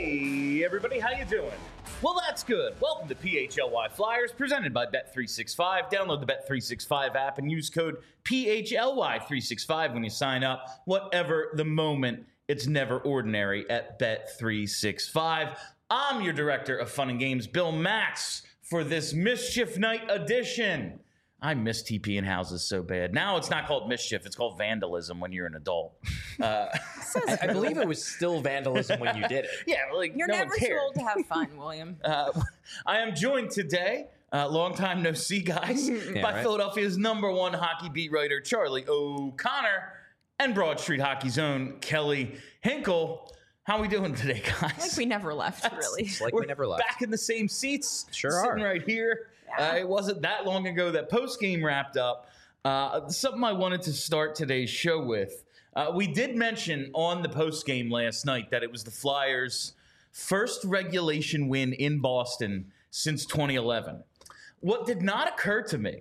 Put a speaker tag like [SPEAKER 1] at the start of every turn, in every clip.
[SPEAKER 1] Hey, everybody, how you doing? Well, that's good. Welcome to PHLY Flyers, presented by Bet365. Download the Bet365 app and use code PHLY365 when you sign up. Whatever the moment, it's never ordinary at Bet365. I'm your director of fun and games, Bill Matz, for this Mischief Night edition. I miss TP in houses so bad. Now it's not called mischief; it's called vandalism when you're an adult.
[SPEAKER 2] I believe it was still vandalism when you did it.
[SPEAKER 1] Yeah, like
[SPEAKER 3] You're
[SPEAKER 1] no
[SPEAKER 3] never
[SPEAKER 1] one
[SPEAKER 3] too
[SPEAKER 1] cared.
[SPEAKER 3] old to have fun, William.
[SPEAKER 1] I am joined today, long time no see, guys, by
[SPEAKER 2] right.
[SPEAKER 1] Philadelphia's #1 hockey beat writer Charlie O'Connor and Broad Street Hockey's own Kelly Hinkle. How we doing today, guys?
[SPEAKER 3] Like we never left, really.
[SPEAKER 2] It's like
[SPEAKER 1] We're
[SPEAKER 2] we never left.
[SPEAKER 1] back in the same seats.
[SPEAKER 2] Sure
[SPEAKER 1] sitting
[SPEAKER 2] are.
[SPEAKER 1] right here.
[SPEAKER 3] Yeah.
[SPEAKER 1] It wasn't that long ago that post game wrapped up. Something I wanted to start today's show with. We did mention on the post game last night that it was the Flyers' first regulation win in Boston since 2011. What did not occur to me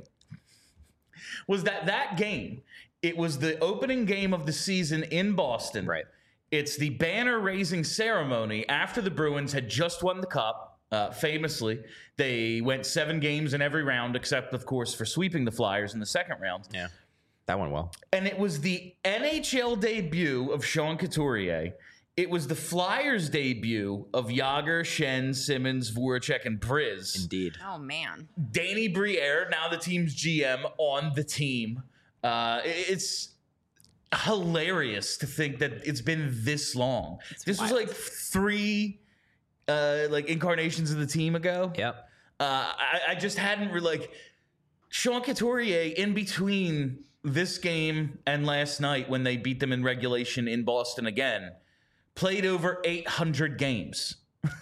[SPEAKER 1] was that game, it was the opening game of the season in Boston.
[SPEAKER 2] Right.
[SPEAKER 1] It's the banner raising ceremony after the Bruins had just won the Cup. Famously, they went 7 games in every round, except, of course, for sweeping the Flyers in the second round.
[SPEAKER 2] Yeah, that went well.
[SPEAKER 1] And it was the NHL debut of Sean Couturier. It was the Flyers' debut of Yager, Shen, Simmons, Voracek, and Briz.
[SPEAKER 2] Indeed.
[SPEAKER 3] Oh, man.
[SPEAKER 1] Danny Briere, now the team's GM, on the team. It's hilarious to think that it's been this long. This was
[SPEAKER 3] wild.
[SPEAKER 1] like 3 incarnations of the team ago.
[SPEAKER 2] Yep.
[SPEAKER 1] I just hadn't really Sean Couturier in between this game and last night when they beat them in regulation in Boston again, played over 800 games.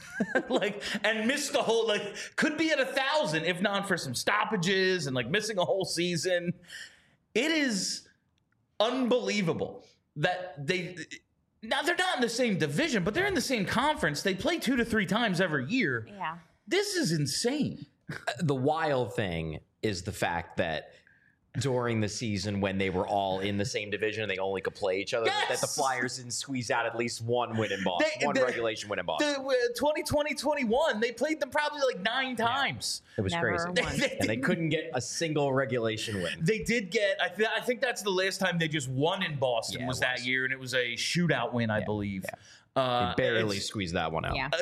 [SPEAKER 1] And missed the whole, could be at 1,000 if not for some stoppages and missing a whole season. It is unbelievable that now they're not in the same division, but they're in the same conference. They play 2 to 3 times every year.
[SPEAKER 3] Yeah.
[SPEAKER 1] This is insane.
[SPEAKER 2] The wild thing is the fact that during the season when they were all in the same division and they only could play each other, that the
[SPEAKER 1] Yes!
[SPEAKER 2] Flyers didn't squeeze out at least one win in Boston, one regulation win in Boston.
[SPEAKER 1] The 2020-21, they played them probably 9 times.
[SPEAKER 2] It was
[SPEAKER 3] Never
[SPEAKER 2] crazy.
[SPEAKER 3] won.
[SPEAKER 2] And they couldn't get a single regulation win.
[SPEAKER 1] They did get, I think that's the last time they just won in Boston
[SPEAKER 2] Yeah,
[SPEAKER 1] was
[SPEAKER 2] it
[SPEAKER 1] that
[SPEAKER 2] was.
[SPEAKER 1] year, and it was a shootout win, I believe.
[SPEAKER 2] They barely
[SPEAKER 1] it's-
[SPEAKER 2] squeezed that one out.
[SPEAKER 3] Yeah.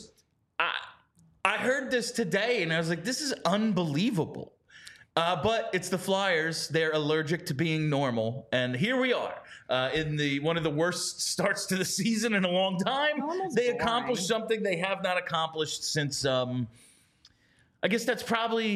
[SPEAKER 1] I heard this today, and I was like, this is unbelievable. But it's the Flyers. They're allergic to being normal. And here we are in one of the worst starts to the season in a long time.
[SPEAKER 3] Normal's
[SPEAKER 1] They
[SPEAKER 3] boring.
[SPEAKER 1] accomplished something they have not accomplished since, I guess that's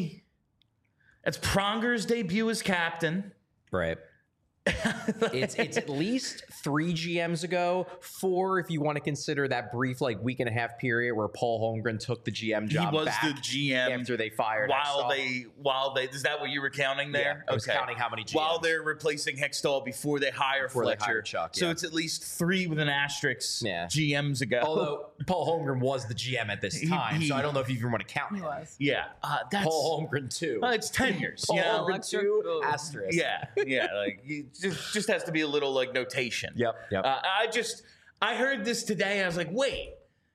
[SPEAKER 1] Pronger's debut as captain.
[SPEAKER 2] Right. It's at least 3 GMs ago, 4 if you want to consider that brief week and a half period where Paul Holmgren took the GM job.
[SPEAKER 1] He was
[SPEAKER 2] back
[SPEAKER 1] the GM
[SPEAKER 2] after they fired
[SPEAKER 1] while
[SPEAKER 2] Hextall.
[SPEAKER 1] they is that what you were counting there?
[SPEAKER 2] Yeah, I was counting how many GMs.
[SPEAKER 1] While they're replacing Hextall before they hire
[SPEAKER 2] Before they
[SPEAKER 1] Fletcher.
[SPEAKER 2] hired Chuck,
[SPEAKER 1] So
[SPEAKER 2] yeah.
[SPEAKER 1] it's at least 3 with an asterisk
[SPEAKER 2] Yeah.
[SPEAKER 1] GMs ago.
[SPEAKER 2] Although Paul Holmgren was the GM at this time, so I don't know if you even want to count
[SPEAKER 3] He
[SPEAKER 2] him.
[SPEAKER 3] was.
[SPEAKER 1] yeah, that's
[SPEAKER 2] Paul Holmgren too.
[SPEAKER 1] it's tenures.
[SPEAKER 2] Paul
[SPEAKER 1] You know?
[SPEAKER 2] Holmgren
[SPEAKER 3] Electric
[SPEAKER 2] 2
[SPEAKER 3] Boogaloo.
[SPEAKER 2] asterisk.
[SPEAKER 1] Yeah, you just has to be a little notation.
[SPEAKER 2] Yep.
[SPEAKER 1] I heard this today. I was like, wait,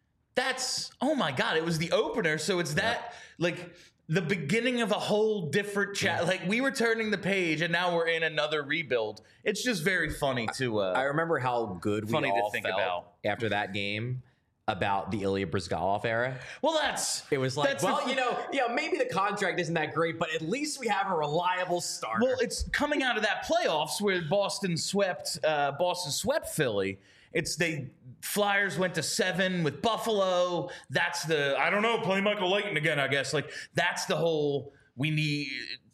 [SPEAKER 1] oh my God, it was the opener. So it's that the beginning of a whole different chat. We were turning the page and now we're in another rebuild. It's just very funny to,
[SPEAKER 2] I remember how good we
[SPEAKER 1] Funny to
[SPEAKER 2] all
[SPEAKER 1] think
[SPEAKER 2] felt
[SPEAKER 1] about.
[SPEAKER 2] after that game about the Ilya Brizgalov era.
[SPEAKER 1] well,
[SPEAKER 2] It was
[SPEAKER 1] that's the-
[SPEAKER 2] maybe the contract isn't that great, but at least we have a reliable starter.
[SPEAKER 1] Well, it's coming out of that playoffs where Boston swept Philly. Flyers went to 7 with Buffalo. That's play Michael Leighton again, I guess. That's the whole, we need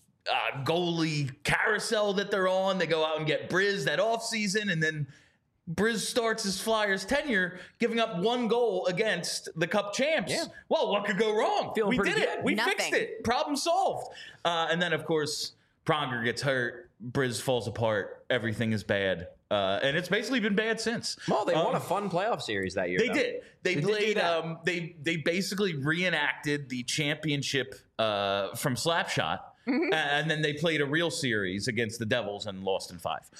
[SPEAKER 1] goalie carousel that they're on. They go out and get Briz that offseason, and then Briz starts his Flyers tenure giving up 1 goal against the Cup champs.
[SPEAKER 2] Yeah.
[SPEAKER 1] Well, what could go wrong?
[SPEAKER 2] Feeling
[SPEAKER 1] We
[SPEAKER 2] pretty
[SPEAKER 1] did it.
[SPEAKER 2] good.
[SPEAKER 1] We
[SPEAKER 3] Nothing.
[SPEAKER 1] fixed it. Problem solved. And then, of course, Pronger gets hurt. Briz falls apart. Everything is bad. And it's basically been bad since.
[SPEAKER 2] Well, they won a fun playoff series that year.
[SPEAKER 1] They
[SPEAKER 2] though.
[SPEAKER 1] did. They
[SPEAKER 2] They did do
[SPEAKER 1] played.
[SPEAKER 2] that.
[SPEAKER 1] They basically reenacted the championship from Slapshot. And then they played a real series against the Devils and lost in 5.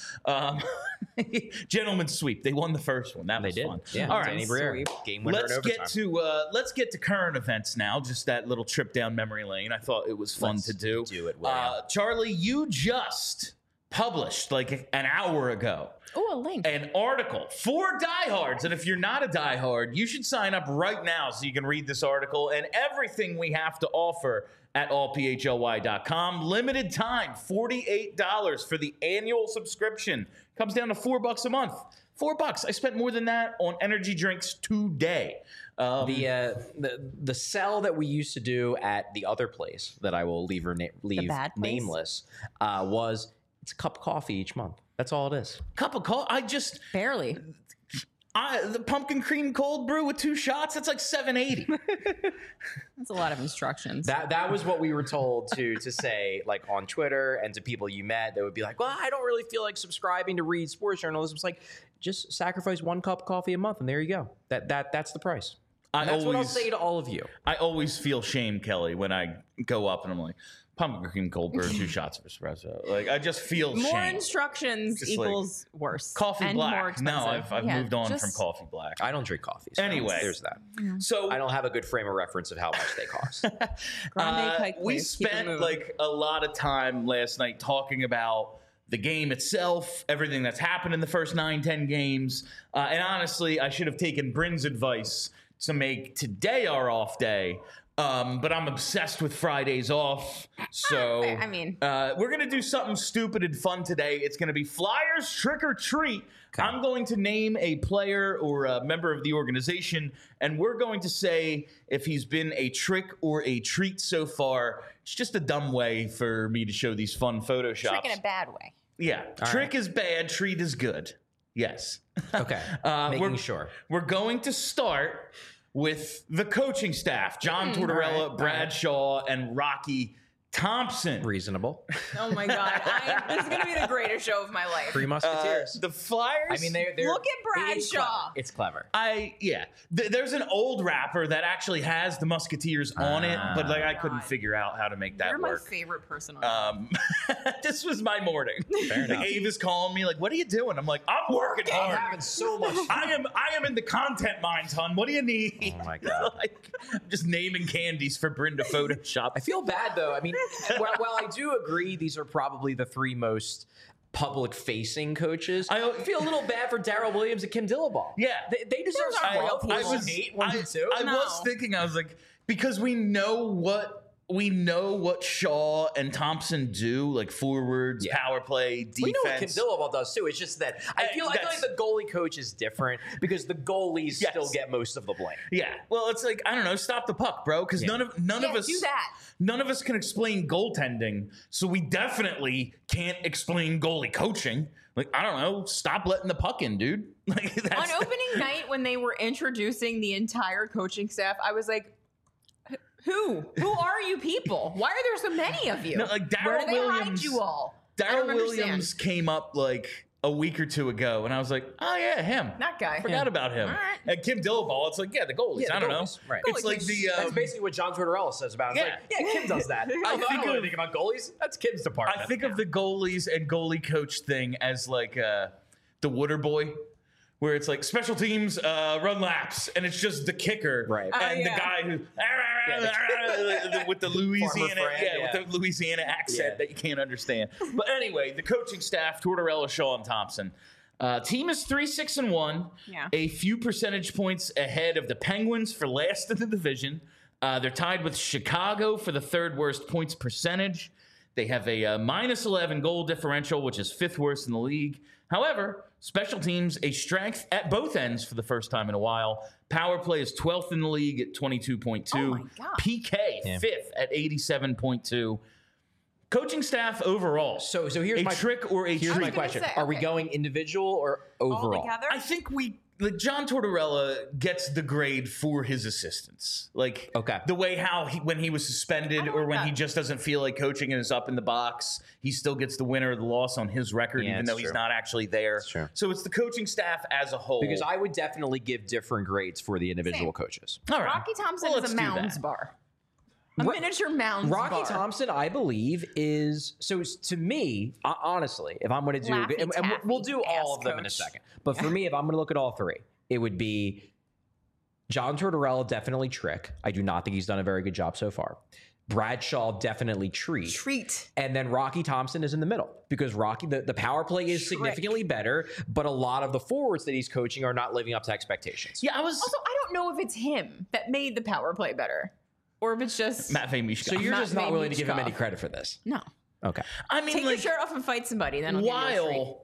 [SPEAKER 1] Gentlemen's sweep. They won the first one. That was fun.
[SPEAKER 2] Yeah.
[SPEAKER 1] All right.
[SPEAKER 2] Danny Briere, game winner in overtime.
[SPEAKER 1] Let's get to current events now. Just that little trip down memory lane. I thought it was fun to do.
[SPEAKER 2] Do it, William.
[SPEAKER 1] Charlie, you just published like an hour ago
[SPEAKER 3] Oh, a link.
[SPEAKER 1] an article for diehards. And if you're not a diehard, you should sign up right now so you can read this article and everything we have to offer at allphly.com. Limited time, $48 for the annual subscription. Comes down to $4 a month. $4. I spent more than that on energy drinks today.
[SPEAKER 2] The sell that we used to do at the other place that I will leave
[SPEAKER 3] bad place?
[SPEAKER 2] nameless was it's a cup of coffee each month. That's all it is.
[SPEAKER 1] Cup of coffee.
[SPEAKER 3] Barely.
[SPEAKER 1] The pumpkin cream cold brew with 2 shots, that's like $7.80.
[SPEAKER 3] That's a lot of instructions.
[SPEAKER 2] That was what we were told to say, like on Twitter and to people you met. That would be like, well, I don't really feel like subscribing to read sports journalism. It's like, just sacrifice 1 cup of coffee a month, and there you go. That's the price. That's what I'll say to all of you.
[SPEAKER 1] I always feel shame, Kelly, when I go up and I'm like, pumpkin cream cold brew, 2 shots of espresso. Like, I just feel
[SPEAKER 3] more
[SPEAKER 1] shame.
[SPEAKER 3] instructions
[SPEAKER 1] Just
[SPEAKER 3] equals worse.
[SPEAKER 1] Coffee
[SPEAKER 3] and
[SPEAKER 1] black.
[SPEAKER 3] More expensive.
[SPEAKER 1] No, I've moved on from coffee black.
[SPEAKER 2] I don't drink coffee. So
[SPEAKER 1] Anyway.
[SPEAKER 2] there's that.
[SPEAKER 1] So
[SPEAKER 2] I don't have a good frame of reference of how much they cost.
[SPEAKER 3] Grande Pike
[SPEAKER 1] we
[SPEAKER 3] Place. Keep it
[SPEAKER 1] spent
[SPEAKER 3] moving.
[SPEAKER 1] like a lot of time last night talking about the game itself, everything that's happened in the first 9-10 games. And honestly, I should have taken Bryn's advice to make today our off day. But I'm obsessed with Fridays off. So
[SPEAKER 3] I mean,
[SPEAKER 1] we're going to do something stupid and fun today. It's going to be Flyers Trick or Treat. Okay. I'm going to name a player or a member of the organization, and we're going to say if he's been a trick or a treat so far. It's just a dumb way for me to show these fun Photoshops.
[SPEAKER 3] trick in a bad way.
[SPEAKER 1] Yeah. Trick is bad, treat is good. Yes.
[SPEAKER 2] Okay. Making sure.
[SPEAKER 1] We're going to start with the coaching staff, John Tortorella, Brad Shaw, and Rocky Thompson.
[SPEAKER 2] Reasonable.
[SPEAKER 3] Oh my God. This is going to be the greatest show of my life.
[SPEAKER 2] 3 Musketeers.
[SPEAKER 1] The Flyers.
[SPEAKER 2] I mean, they're
[SPEAKER 3] Look at Brad
[SPEAKER 2] it's
[SPEAKER 3] Shaw.
[SPEAKER 2] Clever. It's clever.
[SPEAKER 1] There's an old rapper that actually has the Musketeers on it, but like I couldn't figure out how to make that
[SPEAKER 3] You're
[SPEAKER 1] work.
[SPEAKER 3] my favorite person on
[SPEAKER 1] This was my morning.
[SPEAKER 2] Fair enough.
[SPEAKER 1] Like, Ave is calling me, like, "What are you doing?" I'm like, "I'm working
[SPEAKER 2] I'm
[SPEAKER 1] hard.
[SPEAKER 2] having so much fun.
[SPEAKER 1] I am in the content mines, hon. What do you need?"
[SPEAKER 2] Oh my God.
[SPEAKER 1] Like, I'm just naming candies for Bryn to Photoshop.
[SPEAKER 2] I feel bad though. I mean, while I do agree these are probably the 3 most public-facing coaches, I feel a little bad for Darrell Williams and Kim Dillabaugh.
[SPEAKER 1] Yeah.
[SPEAKER 2] They deserve some royalties.
[SPEAKER 1] I was thinking, I was like, because we know what Shaw and Thompson do, like forwards, power play, defense.
[SPEAKER 2] We know what Kim Dillabaugh does too. It's just that I feel like the goalie coach is different because the goalies still get most of the blame.
[SPEAKER 1] Yeah. Well, it's like, I don't know, stop the puck, bro, because none of us
[SPEAKER 3] do that.
[SPEAKER 1] None of us can explain goaltending, so we definitely can't explain goalie coaching. Like, I don't know, stop letting the puck in, dude. Like,
[SPEAKER 3] On opening night, when they were introducing the entire coaching staff, I was like, Who are you people? Why are there so many of you?
[SPEAKER 1] No, like
[SPEAKER 3] Where do they hide
[SPEAKER 1] Williams,
[SPEAKER 3] you all?
[SPEAKER 1] Darrell Williams came up like a week or 2 ago, and I was like, oh yeah, him.
[SPEAKER 3] That guy.
[SPEAKER 1] Forgot about him.
[SPEAKER 3] All right.
[SPEAKER 1] And Kim Dillabaugh, it's like, the goalies.
[SPEAKER 2] Yeah, the
[SPEAKER 1] I don't
[SPEAKER 2] goalies,
[SPEAKER 1] know.
[SPEAKER 2] right.
[SPEAKER 1] It's
[SPEAKER 3] Goalie
[SPEAKER 1] like
[SPEAKER 3] coach.
[SPEAKER 1] the
[SPEAKER 2] That's basically what John Tortorella says about it. It's like, Kim does that. I don't know anything about goalies. That's Kim's department.
[SPEAKER 1] I think of the goalies and goalie coach thing as like the Water Boy, where it's like special teams run laps, and it's just the kicker,
[SPEAKER 2] Right.
[SPEAKER 1] And the guy who with the Louisiana, with the Louisiana accent that you can't understand. But anyway, the coaching staff: Tortorella, Shaw, and Thompson. Team is 3-6-1, a few percentage points ahead of the Penguins for last in the division. They're tied with Chicago for the 3rd worst points percentage. They have a -11 goal differential, which is 5th worst in the league. However, special teams, a strength at both ends for the first time in a while. Power play is 12th in the league at 22.2.
[SPEAKER 3] Oh my God.
[SPEAKER 1] PK, 5th at 87.2. Coaching staff overall.
[SPEAKER 2] So here's my
[SPEAKER 1] trick or a
[SPEAKER 2] here's
[SPEAKER 1] treat.
[SPEAKER 2] my question:
[SPEAKER 3] say,
[SPEAKER 2] Are we going individual or overall?
[SPEAKER 3] All together?
[SPEAKER 1] I think John Tortorella gets the grade for his assistants. Like, the way when he was suspended or when he just doesn't feel like coaching and is up in the box, he still gets the winner or the loss on his record, even though he's not actually there. So it's the coaching staff as a whole.
[SPEAKER 2] Because I would definitely give different grades for the individual coaches.
[SPEAKER 1] All right.
[SPEAKER 3] Rocky Thompson is a Mounds bar. A miniature Mounds
[SPEAKER 2] Rocky
[SPEAKER 3] bar.
[SPEAKER 2] Thompson, I believe, is so to me. Honestly, if I'm going to do,
[SPEAKER 3] Laffy
[SPEAKER 2] and we'll do
[SPEAKER 3] Taffy,
[SPEAKER 2] all of them in a
[SPEAKER 3] coach.
[SPEAKER 2] second. But for me, if I'm going to look at all three, it would be John Tortorella, definitely Trick. I do not think he's done a very good job so far. Bradshaw, definitely Treat. And then Rocky Thompson is in the middle because Rocky, the power play is significantly better, but a lot of the forwards that he's coaching are not living up to expectations.
[SPEAKER 1] Yeah,
[SPEAKER 3] Also, I don't know if it's him that made the power play better, or if it's just
[SPEAKER 1] Matvei Michkov.
[SPEAKER 2] So you're just not willing to give him
[SPEAKER 3] Michkov.
[SPEAKER 2] any credit for this.
[SPEAKER 3] No.
[SPEAKER 2] Okay.
[SPEAKER 1] I mean,
[SPEAKER 3] Take
[SPEAKER 1] like,
[SPEAKER 3] your shirt off and fight somebody. Then I'll give you a treat.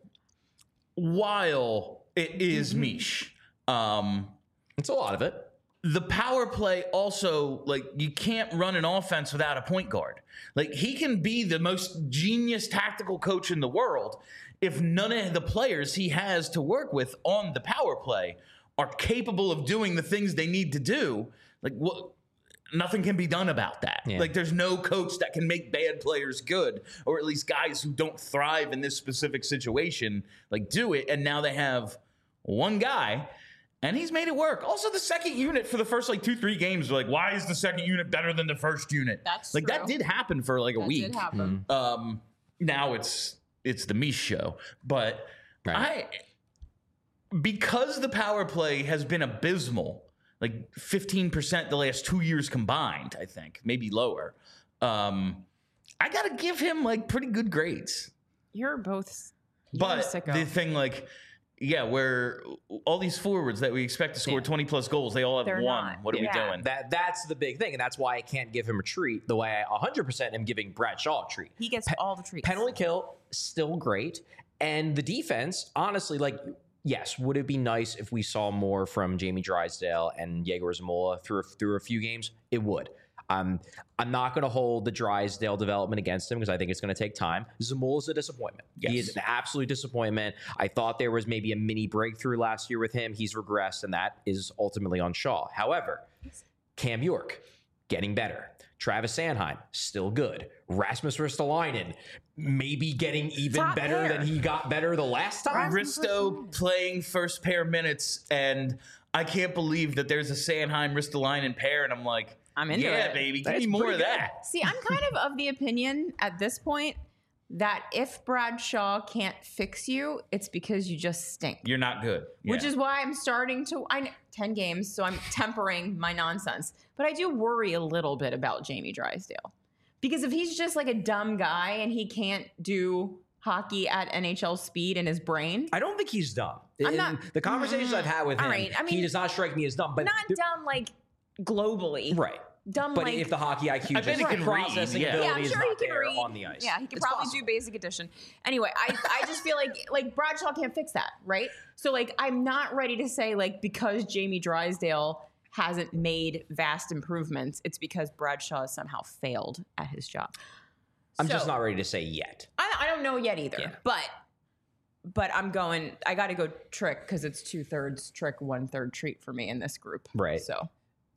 [SPEAKER 1] while it is Mish,
[SPEAKER 2] It's a lot of it.
[SPEAKER 1] the power play also, like, you can't run an offense without a point guard. Like, he can be the most genius tactical coach in the world if none of the players he has to work with on the power play are capable of doing the things they need to do. Like, what? Nothing can be done about that.
[SPEAKER 2] Yeah.
[SPEAKER 1] Like, there's no coach that can make bad players good, or at least guys who don't thrive in this specific situation, like, do it. And now they have one guy, and he's made it work. Also, the second unit for the first, like, 2-3 games, like, why is the second unit better than the first unit?
[SPEAKER 3] That's
[SPEAKER 1] like,
[SPEAKER 3] true.
[SPEAKER 1] that did happen for, like, a
[SPEAKER 3] That
[SPEAKER 1] week.
[SPEAKER 3] did happen.
[SPEAKER 1] Now it's the Mish show. But
[SPEAKER 2] Right.
[SPEAKER 1] because the power play has been abysmal, like 15% the last 2 years combined, I think, maybe lower. I got to give him, like, pretty good grades.
[SPEAKER 3] You're both.
[SPEAKER 1] But
[SPEAKER 3] a sicko.
[SPEAKER 1] the thing, like, yeah, where all these forwards that we expect to score 20 plus goals, they all have
[SPEAKER 3] They're
[SPEAKER 1] one.
[SPEAKER 3] not.
[SPEAKER 1] What are we
[SPEAKER 3] Yeah.
[SPEAKER 1] doing?
[SPEAKER 2] That's the big thing, and that's why I can't give him a treat the way I 100% am giving Bradshaw a treat.
[SPEAKER 3] He gets all the treats.
[SPEAKER 2] Penalty kill, still great. And the defense, honestly, like, yes, would it be nice if we saw more from Jamie Drysdale and Yegor Zamola through a few games? It would. I'm not going to hold the Drysdale development against him because I think it's going to take time. Zamola's a disappointment. He
[SPEAKER 1] Yes.
[SPEAKER 2] is an absolute disappointment. I thought there was maybe a mini breakthrough last year with him. He's regressed, and that is ultimately on Shaw. However, Cam York, getting better. Travis Sanheim, still good. Rasmus Ristolainen, maybe getting even
[SPEAKER 3] Top
[SPEAKER 2] better
[SPEAKER 3] pair.
[SPEAKER 2] than he got better the last time.
[SPEAKER 1] Risto playing first pair minutes, and I can't believe that there's a Sanheim Ristolainen pair, and I'm like,
[SPEAKER 3] I'm into
[SPEAKER 1] yeah,
[SPEAKER 3] it.
[SPEAKER 1] baby, give
[SPEAKER 2] That's
[SPEAKER 1] me more
[SPEAKER 2] pretty
[SPEAKER 1] of
[SPEAKER 2] good.
[SPEAKER 1] that.
[SPEAKER 3] See, I'm kind of the opinion at this point that if Bradshaw can't fix you, it's because you just stink.
[SPEAKER 1] You're not good.
[SPEAKER 3] Which
[SPEAKER 1] Yeah.
[SPEAKER 3] is why I'm starting to 10 games, so I'm tempering my nonsense. But I do worry a little bit about Jamie Drysdale. Because if he's just like a dumb guy and he can't do hockey at NHL speed in his brain,
[SPEAKER 2] I don't think he's dumb.
[SPEAKER 3] I'm not-
[SPEAKER 2] The conversations I've had with him,
[SPEAKER 3] all right, I mean,
[SPEAKER 2] he does not strike me as dumb. But
[SPEAKER 3] not dumb like globally.
[SPEAKER 2] right.
[SPEAKER 3] Dumb
[SPEAKER 2] But
[SPEAKER 3] like
[SPEAKER 2] if the hockey IQ
[SPEAKER 1] I bet
[SPEAKER 2] just
[SPEAKER 1] he can read,
[SPEAKER 2] processing
[SPEAKER 1] yeah.
[SPEAKER 2] ability
[SPEAKER 3] yeah, I'm
[SPEAKER 2] is
[SPEAKER 3] sure
[SPEAKER 2] not
[SPEAKER 3] he can
[SPEAKER 2] there
[SPEAKER 3] read
[SPEAKER 2] on the ice.
[SPEAKER 3] Yeah, he could
[SPEAKER 2] It's
[SPEAKER 3] probably
[SPEAKER 2] possible.
[SPEAKER 3] do basic addition. Anyway, I just feel like Bradshaw can't fix that, right? So like I'm not ready to say like because Jamie Drysdale hasn't made vast improvements, it's because Bradshaw has somehow failed at his job.
[SPEAKER 2] I'm just
[SPEAKER 3] So,
[SPEAKER 2] not ready to say yet.
[SPEAKER 3] I don't know yet either,
[SPEAKER 2] Yeah.
[SPEAKER 3] but I'm going. I got to go Trick because it's 2/3 Trick, 1/3 Treat for me in this group.
[SPEAKER 2] Right.
[SPEAKER 3] So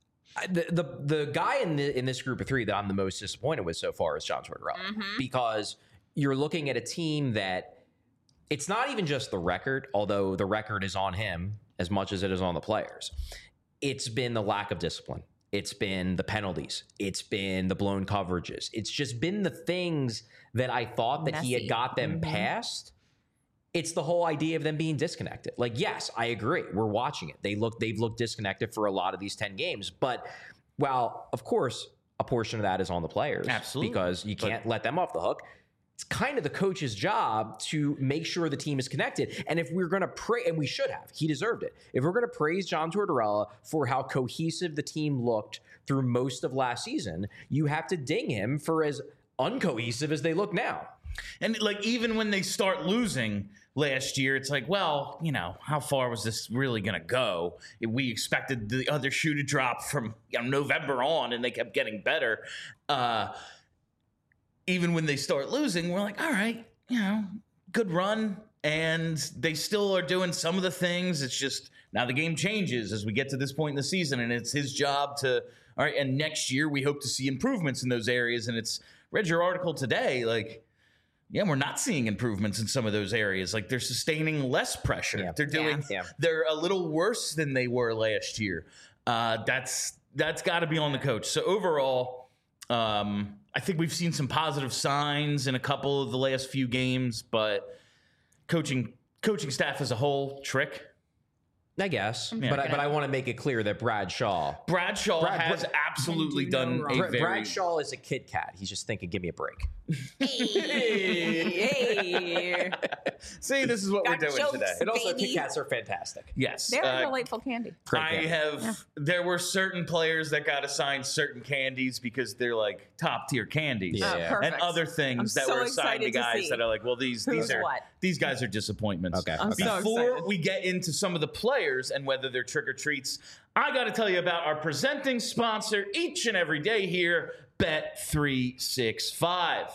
[SPEAKER 2] The guy in this group of three that I'm the most disappointed with so far is John Tortorella because you're looking at a team that it's not even just the record, although the record is on him as much as it is on the players. It's been the lack of discipline. It's been the penalties. It's been the blown coverages. It's just been the things that I thought that he had
[SPEAKER 3] Messy.
[SPEAKER 2] got them past. It's the whole idea of them being disconnected. Like, yes, I agree. We're watching it. They've looked disconnected for a lot of these 10 games. But while, of course, a portion of that is on the players.
[SPEAKER 1] Absolutely.
[SPEAKER 2] Because you can't let them off the hook. It's kind of the coach's job to make sure the team is connected. And if we're going to praise, and we should have, he deserved it. If we're going to praise John Tortorella for how cohesive the team looked through most of last season, you have to ding him for as uncohesive as they look now.
[SPEAKER 1] And like even when they start losing last year, it's like, well, you know, how far was this really going to go? We expected the other shoe to drop from November on, and they kept getting better. Even when they start losing, we're like, all right, good run. And they still are doing some of the things. It's just now the game changes as we get to this point in the season, and it's his job to, all right, and next year we hope to see improvements in those areas. And it's read your article today, like, yeah, we're not seeing improvements in some of those areas. Like they're sustaining less pressure.
[SPEAKER 2] Yeah.
[SPEAKER 1] They're doing,
[SPEAKER 2] Yeah.
[SPEAKER 1] they're a little worse than they were last year. That's got to be on the coach. So overall, I think we've seen some positive signs in a couple of the last few games, but coaching staff as a whole, trick.
[SPEAKER 2] I guess,
[SPEAKER 1] Yeah.
[SPEAKER 2] but I want to make it clear that Brad Shaw
[SPEAKER 1] has absolutely
[SPEAKER 3] Can do no
[SPEAKER 1] done
[SPEAKER 3] wrong.
[SPEAKER 1] a very
[SPEAKER 2] Brad Shaw is a Kit Kat. He's just thinking, give me a break.
[SPEAKER 3] Hey.
[SPEAKER 1] See, this is what
[SPEAKER 3] Got
[SPEAKER 1] we're doing
[SPEAKER 3] jokes.
[SPEAKER 1] today.
[SPEAKER 2] And also,
[SPEAKER 3] Baby.
[SPEAKER 2] Kit Kats are fantastic.
[SPEAKER 1] Yes,
[SPEAKER 3] They're a delightful candy.
[SPEAKER 1] There were certain players that got assigned certain candies because they're like top tier candies.
[SPEAKER 2] Yeah.
[SPEAKER 3] Oh, perfect.
[SPEAKER 1] And other things
[SPEAKER 3] I'm
[SPEAKER 1] that
[SPEAKER 3] so
[SPEAKER 1] were assigned to
[SPEAKER 3] excited to
[SPEAKER 1] guys
[SPEAKER 3] see
[SPEAKER 1] that are like, well, these
[SPEAKER 3] who's
[SPEAKER 1] are
[SPEAKER 3] what.
[SPEAKER 1] these guys are disappointments.
[SPEAKER 2] Okay.
[SPEAKER 3] I'm so
[SPEAKER 1] Before
[SPEAKER 3] excited.
[SPEAKER 1] we get into some of the players and whether they're trick or treats, I got to tell you about our presenting sponsor each and every day here, Bet365.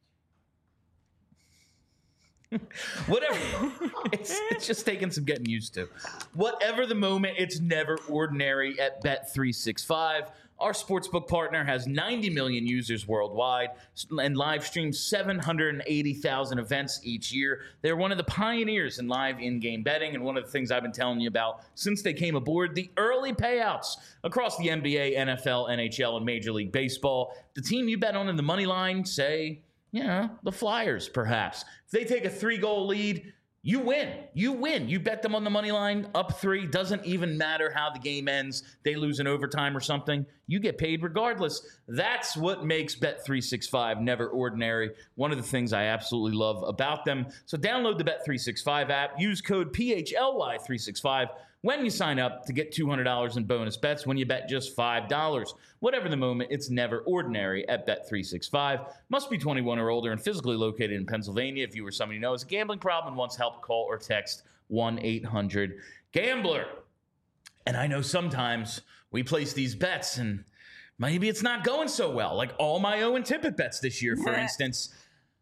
[SPEAKER 1] Whatever. It's just taking some getting used to. Whatever the moment, it's never ordinary at Bet365. Our sportsbook partner has 90 million users worldwide and live streams 780,000 events each year. They're one of the pioneers in live in-game betting, and one of the things I've been telling you about since they came aboard, the early payouts across the NBA, NFL, NHL, and Major League Baseball. The team you bet on in the money line, say, the Flyers, perhaps. If they take a 3-goal lead, you win. You win. You bet them on the money line up 3. Doesn't even matter how the game ends. They lose in overtime or something. You get paid regardless. That's what makes Bet365 never ordinary. One of the things I absolutely love about them. So download the Bet365 app. Use code PHLY365 when you sign up to get $200 in bonus bets when you bet just $5. Whatever the moment, it's never ordinary at Bet365. Must be 21 or older and physically located in Pennsylvania. If you or somebody knows a gambling problem and wants help, call or text 1-800-GAMBLER. And I know sometimes we place these bets and maybe it's not going so well. Like all my Owen Tippett bets this year, for instance.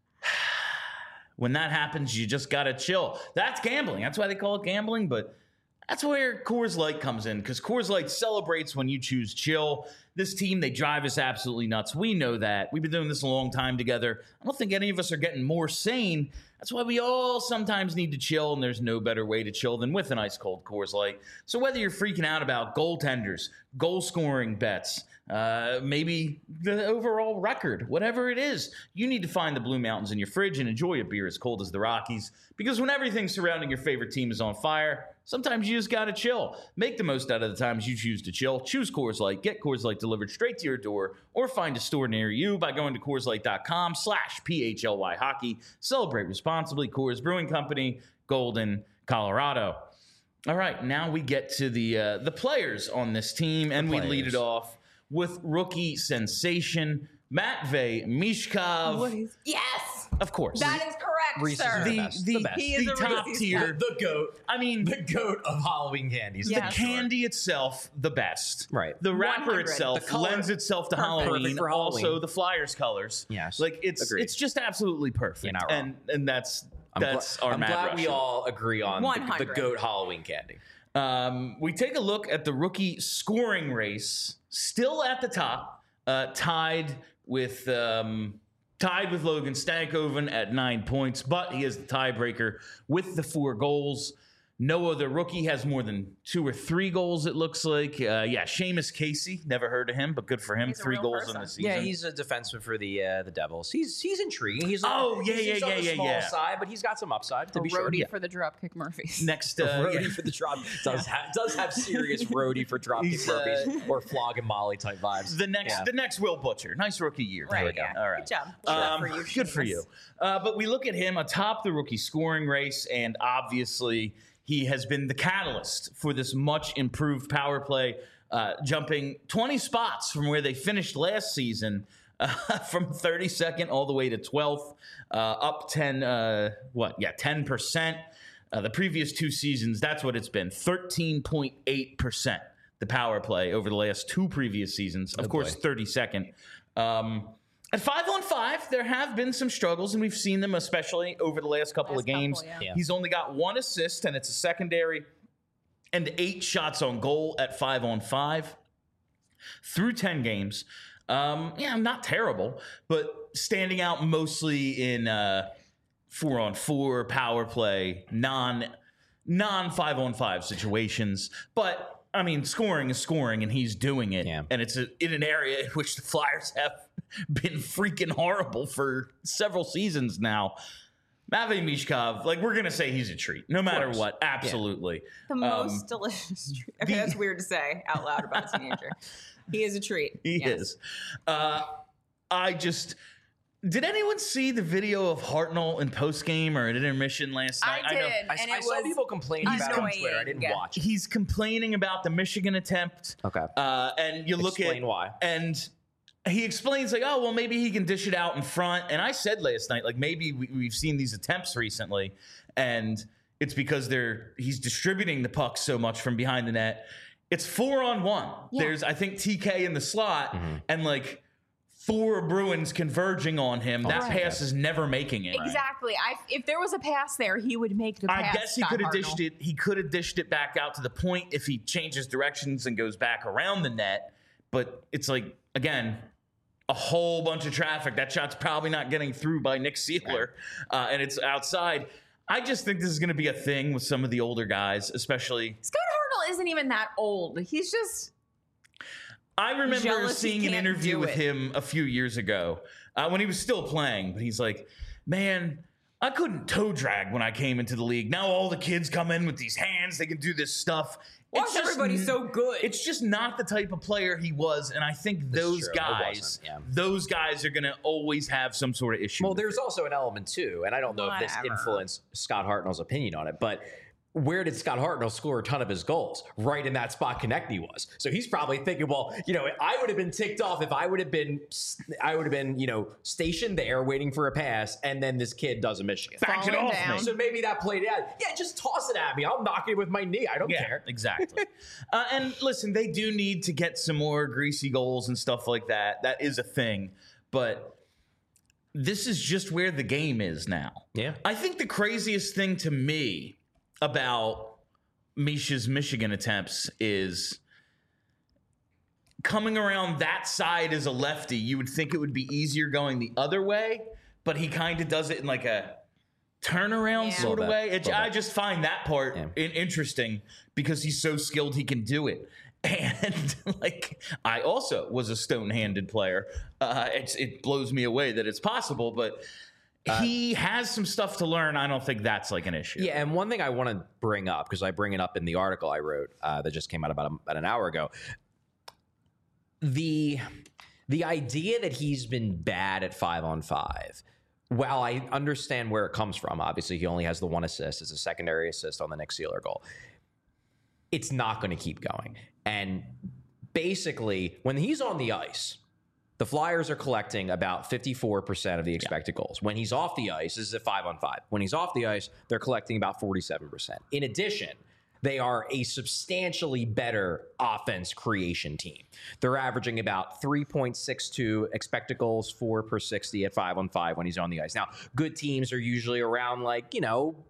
[SPEAKER 1] When that happens, you just got to chill. That's gambling. That's why they call it gambling, but that's where Coors Light comes in, because Coors Light celebrates when you choose chill. This team, they drive us absolutely nuts. We know that. We've been doing this a long time together. I don't think any of us are getting more sane. That's why we all sometimes need to chill, and there's no better way to chill than with an ice-cold Coors Light. So whether you're freaking out about goaltenders, goal-scoring bets, maybe the overall record, whatever it is, you need to find the Blue Mountains in your fridge and enjoy a beer as cold as the Rockies. Because when everything surrounding your favorite team is on fire, sometimes you just gotta chill. Make the most out of the times you choose to chill. Choose Coors Light. Get Coors Light delivered straight to your door, or find a store near you by going to CoorsLight.com/PHLY hockey. Celebrate responsibly. Coors Brewing Company, Golden, Colorado. All right, now we get to the players on this team, and we lead it off with rookie sensation Matvei Michkov.
[SPEAKER 3] Yes,
[SPEAKER 1] of course.
[SPEAKER 3] that is correct,
[SPEAKER 2] Reese's
[SPEAKER 3] sir.
[SPEAKER 2] are the best. The best.
[SPEAKER 3] He is
[SPEAKER 1] the
[SPEAKER 3] a
[SPEAKER 1] top
[SPEAKER 3] Reese's
[SPEAKER 1] tier.
[SPEAKER 2] The GOAT.
[SPEAKER 1] I mean,
[SPEAKER 2] The GOAT of Halloween candies.
[SPEAKER 3] Yeah.
[SPEAKER 1] the candy itself, the best.
[SPEAKER 2] Right.
[SPEAKER 1] The wrapper
[SPEAKER 3] 100.
[SPEAKER 1] itself
[SPEAKER 2] The color-
[SPEAKER 1] lends itself to
[SPEAKER 2] perfect
[SPEAKER 1] Halloween.
[SPEAKER 2] for Halloween.
[SPEAKER 1] Also, the Flyers colors.
[SPEAKER 2] Yes.
[SPEAKER 1] Like
[SPEAKER 2] Agreed.
[SPEAKER 1] it's just absolutely perfect.
[SPEAKER 2] You're not wrong.
[SPEAKER 1] And that's
[SPEAKER 2] I'm
[SPEAKER 1] our
[SPEAKER 2] I'm
[SPEAKER 1] Mad
[SPEAKER 2] glad we
[SPEAKER 1] Russian.
[SPEAKER 2] all agree on the
[SPEAKER 3] 100.
[SPEAKER 2] GOAT Halloween candy.
[SPEAKER 1] We take a look at the rookie scoring race, still at the top, tied with Logan Stankoven at 9 points, but he is the tiebreaker with the 4 goals. No other rookie has more than 2 or 3 goals, it looks like. Seamus Casey, never heard of him, but good for him.
[SPEAKER 3] He's a
[SPEAKER 1] 3
[SPEAKER 3] real
[SPEAKER 1] goals
[SPEAKER 3] person.
[SPEAKER 1] in the season.
[SPEAKER 2] Yeah, he's a defenseman for the Devils. He's intriguing. He's he's on the small side, but he's got some upside to
[SPEAKER 3] A
[SPEAKER 2] be sure.
[SPEAKER 3] roadie for the Dropkick Murphys.
[SPEAKER 1] Next,
[SPEAKER 2] Roadie for the drop does have serious roadie for dropkick
[SPEAKER 1] He's,
[SPEAKER 2] Murphys or Flog and Molly type vibes.
[SPEAKER 1] the next Will Butcher. Nice rookie year. There we
[SPEAKER 3] Right,
[SPEAKER 1] go.
[SPEAKER 3] yeah.
[SPEAKER 1] All right.
[SPEAKER 3] Good job.
[SPEAKER 1] Good for you. But we look at him atop the rookie scoring race, and obviously he has been the catalyst for this much improved power play, jumping 20 spots from where they finished last season, from 32nd all the way to 12th, up 10%. The previous 2 seasons, that's what it's been, 13.8%. The power play over the last 2 previous seasons. Of course, 32nd. At 5-on-5, there have been some struggles, and we've seen them especially over the last couple of games.
[SPEAKER 3] Yeah.
[SPEAKER 1] He's only got 1 assist, and it's a secondary, and 8 shots on goal at 5-on-5 through 10 games. Not terrible, but standing out mostly in 4-on-4 power play, non 5-on-5 situations. But I mean, scoring is scoring, and he's doing it.
[SPEAKER 2] Yeah.
[SPEAKER 1] And it's in an area in which the Flyers have been freaking horrible for several seasons now. Matvei Michkov, like, we're going to say he's a treat, no matter what. Absolutely.
[SPEAKER 3] The most delicious treat. Okay, that's weird to say out loud about a teenager. He is a treat.
[SPEAKER 1] He is. Did anyone see the video of Hartnell in postgame or at intermission last night?
[SPEAKER 3] I did.
[SPEAKER 2] I saw people complaining about it on Twitter. I didn't watch it.
[SPEAKER 1] He's complaining about the Michigan attempt.
[SPEAKER 2] Okay.
[SPEAKER 1] And you look
[SPEAKER 2] Explain why.
[SPEAKER 1] And he explains, like, oh, well, maybe he can dish it out in front. And I said last night, like, maybe we've seen these attempts recently, and it's because he's distributing the puck so much from behind the net. It's 4-on-1.
[SPEAKER 3] Yeah.
[SPEAKER 1] There's, I think, TK in the slot, and, like, 4 Bruins converging on him. That pass is never making it.
[SPEAKER 3] Exactly. If there was a pass there, he would make the pass.
[SPEAKER 1] I guess he could have dished it. He could have dished it back out to the point if he changes directions and goes back around the net. But it's like, again, a whole bunch of traffic. That shot's probably not getting through by Nick Seeler, and it's outside. I just think this is going to be a thing with some of the older guys, especially.
[SPEAKER 3] Scott Hartnell isn't even that old. He's just.
[SPEAKER 1] I remember
[SPEAKER 3] jealous
[SPEAKER 1] seeing an interview with him a few years ago when he was still playing, but he's like, man, I couldn't toe drag when I came into the league. Now all the kids come in with these hands. They can do this stuff.
[SPEAKER 3] Why is everybody so good?
[SPEAKER 1] It's just not the type of player he was, and I think those guys are going to always have some sort of issue.
[SPEAKER 2] Well, there's also an element too, and I don't know if this influenced Scott Hartnell's opinion on it, but where did Scott Hartnell score a ton of his goals? Right in that spot Konechny was. So he's probably thinking, well, I would have been ticked off if I would have been, stationed there waiting for a pass, and then this kid does a Michigan.
[SPEAKER 1] Back it off me.
[SPEAKER 2] So maybe that played out. Yeah, just toss it at me. I'll knock it with my knee. I don't care.
[SPEAKER 1] Exactly. And listen, they do need to get some more greasy goals and stuff like that. That is a thing. But this is just where the game is now.
[SPEAKER 2] Yeah.
[SPEAKER 1] I think the craziest thing to me about Misha's Michigan attempts is coming around that side as a lefty. You would think it would be easier going the other way, but he kind of does it in like a turnaround sort of way. I just find that part interesting because he's so skilled he can do it. And like, I also was a stone-handed player. It blows me away that it's possible, but he has some stuff to learn. I don't think that's like an issue.
[SPEAKER 2] Yeah, and one thing I want to bring up, because I bring it up in the article I wrote that just came out about an hour ago, the idea that he's been bad at 5-on-5, while I understand where it comes from, obviously he only has the 1 assist as a secondary assist on the Nick Seeler goal, it's not going to keep going. And basically, when he's on the ice, the Flyers are collecting about 54% of the expected goals. When he's off the ice, this is a 5-on-5. When he's off the ice, they're collecting about 47%. In addition, they are a substantially better offense creation team. They're averaging about 3.62 expected goals for per 60 at 5-on-5 when he's on the ice. Now, good teams are usually around 2.7,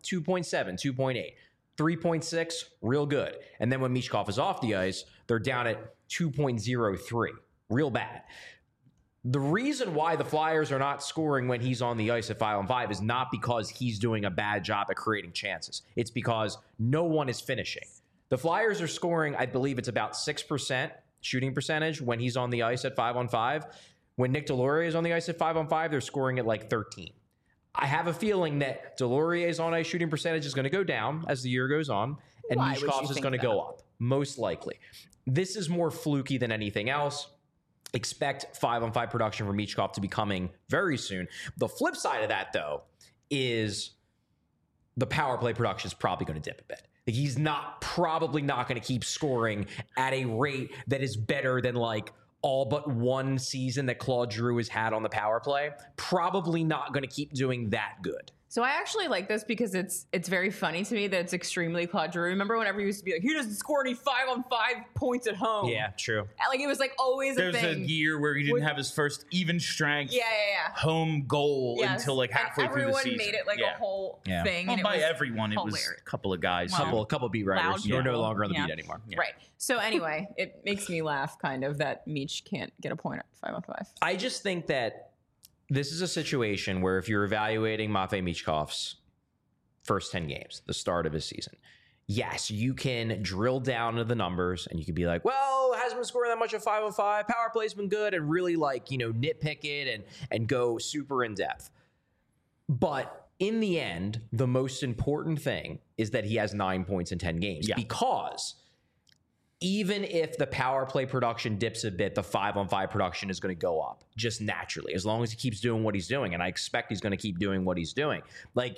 [SPEAKER 2] 2.8. 3.6, real good. And then when Michkov is off the ice, they're down at 2.03, real bad. The reason why the Flyers are not scoring when he's on the ice at 5-on-5 is not because he's doing a bad job at creating chances. It's because no one is finishing. The Flyers are scoring, I believe it's about 6% shooting percentage when he's on the ice at 5-on-5. When Nick Deslauriers is on the ice at 5-on-5, they're scoring at 13. I have a feeling that Deslauriers's on-ice shooting percentage is going to go down as the year goes on, and Michkov's is going to go up, most likely. This is more fluky than anything else. Expect 5-on-5 production from Michkov to be coming very soon. The flip side of that, though, is the power play production is probably going to dip a bit. He's probably not going to keep scoring at a rate that is better than all but one season that Claude Giroux has had on the power play. Probably not going to keep doing that good.
[SPEAKER 3] So I actually like this because it's very funny to me that it's extremely Claude Giroux. Remember whenever he used to be he doesn't score any 5-on-5 points at home.
[SPEAKER 2] Yeah, true.
[SPEAKER 3] It was always a thing.
[SPEAKER 1] There's a year where he didn't have his first even strength home goal until halfway through the season.
[SPEAKER 3] Everyone made it a whole thing.
[SPEAKER 1] Well,
[SPEAKER 3] and
[SPEAKER 1] by
[SPEAKER 3] it was
[SPEAKER 1] everyone,
[SPEAKER 3] hilarious.
[SPEAKER 1] It was a couple of guys.
[SPEAKER 2] A couple beat writers. You're no longer on the beat anymore.
[SPEAKER 3] Yeah. Right. So anyway, it makes me laugh kind of that Meech can't get a point at 5-on-5.
[SPEAKER 2] I just think that this is a situation where if you're evaluating Matvei Michkov's first 10 games, the start of his season, yes, you can drill down to the numbers and you can be like, well, hasn't been scoring that much at 5-on-5. Power play's been good, and really nitpick it and go super in depth. But in the end, the most important thing is that he has 9 points in 10 games because even if the power play production dips a bit, the 5-on-5 production is going to go up just naturally as long as he keeps doing what he's doing. And I expect he's going to keep doing what he's doing. Like,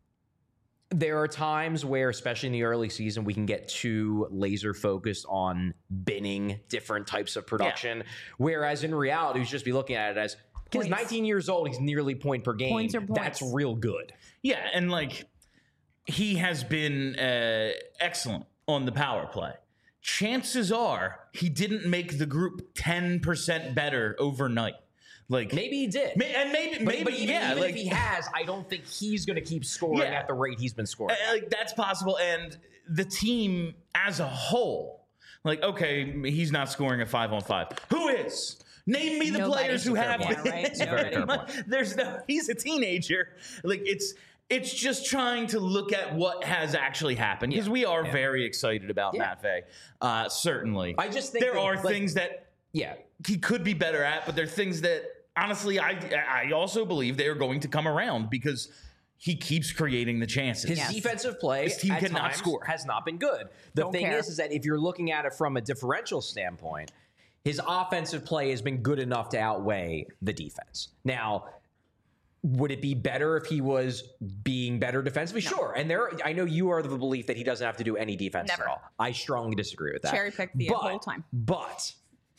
[SPEAKER 2] there are times where, especially in the early season, we can get too laser focused on binning different types of production. Whereas in reality, we should just be looking at it as, he's 19 years old, he's nearly point per game.
[SPEAKER 3] Points are points.
[SPEAKER 2] That's real good.
[SPEAKER 1] Yeah, and like he has been excellent on the power play. Chances are he didn't make the group 10% better overnight. Like
[SPEAKER 2] maybe he did,
[SPEAKER 1] and maybe
[SPEAKER 2] but even if he has, I don't think he's going to keep scoring at the rate he's been scoring.
[SPEAKER 1] Like that's possible, and the team as a whole, like okay, he's not scoring a 5-on-5. Who is? Name me the players who have.
[SPEAKER 3] Right?
[SPEAKER 1] There's no. He's a teenager. Like it's just trying to look at what has actually happened because we are very excited about Matt Vey. Certainly,
[SPEAKER 2] I just think
[SPEAKER 1] there are things that he could be better at, but there are things that honestly I also believe they are going to come around because he keeps creating the chances.
[SPEAKER 2] His defensive play,
[SPEAKER 1] his team
[SPEAKER 2] at
[SPEAKER 1] cannot
[SPEAKER 2] times,
[SPEAKER 1] score,
[SPEAKER 2] has not been good. The thing is that if you're looking at it from a differential standpoint, his offensive play has been good enough to outweigh the defense. Now, would it be better if he was being better defensively? No. Sure. And I know you are of the belief that he doesn't have to do any defense at all. I strongly disagree with that.
[SPEAKER 3] Cherry pick the whole time.
[SPEAKER 2] But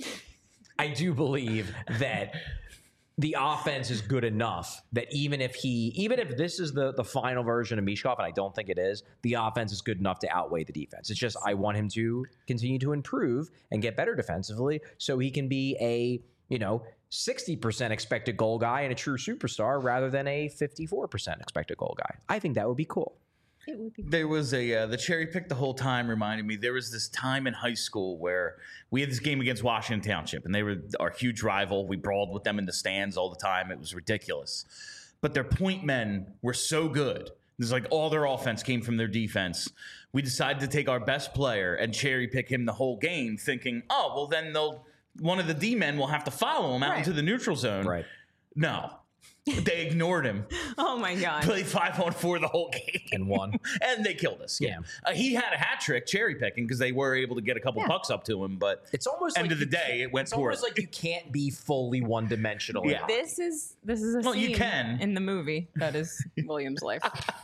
[SPEAKER 2] I do believe that the offense is good enough that even if this is the final version of Michkov, and I don't think it is, the offense is good enough to outweigh the defense. It's just I want him to continue to improve and get better defensively so he can be a 60% expected goal guy and a true superstar rather than a 54% expected goal guy. I think that would be cool.
[SPEAKER 3] It would be.
[SPEAKER 1] There was the cherry pick the whole time reminded me there was this time in high school where we had this game against Washington Township and they were our huge rival. We brawled with them in the stands all the time. It was ridiculous. But their point men were so good. It's like all their offense came from their defense. We decided to take our best player and cherry pick him the whole game thinking, oh, well then one of the D men will have to follow him out into the neutral zone.
[SPEAKER 2] Right.
[SPEAKER 1] No. They ignored him.
[SPEAKER 3] Oh my God.
[SPEAKER 1] Played 5-on-4 the whole game.
[SPEAKER 2] And won.
[SPEAKER 1] And they killed us. Yeah. He had a hat trick cherry picking because they were able to get a couple pucks up to him. But
[SPEAKER 2] it's almost
[SPEAKER 1] end of the day, it went poor.
[SPEAKER 2] It's almost like you can't be fully one-dimensional.
[SPEAKER 1] Yeah.
[SPEAKER 3] This is a scene
[SPEAKER 1] you can.
[SPEAKER 3] in the movie that is William's life.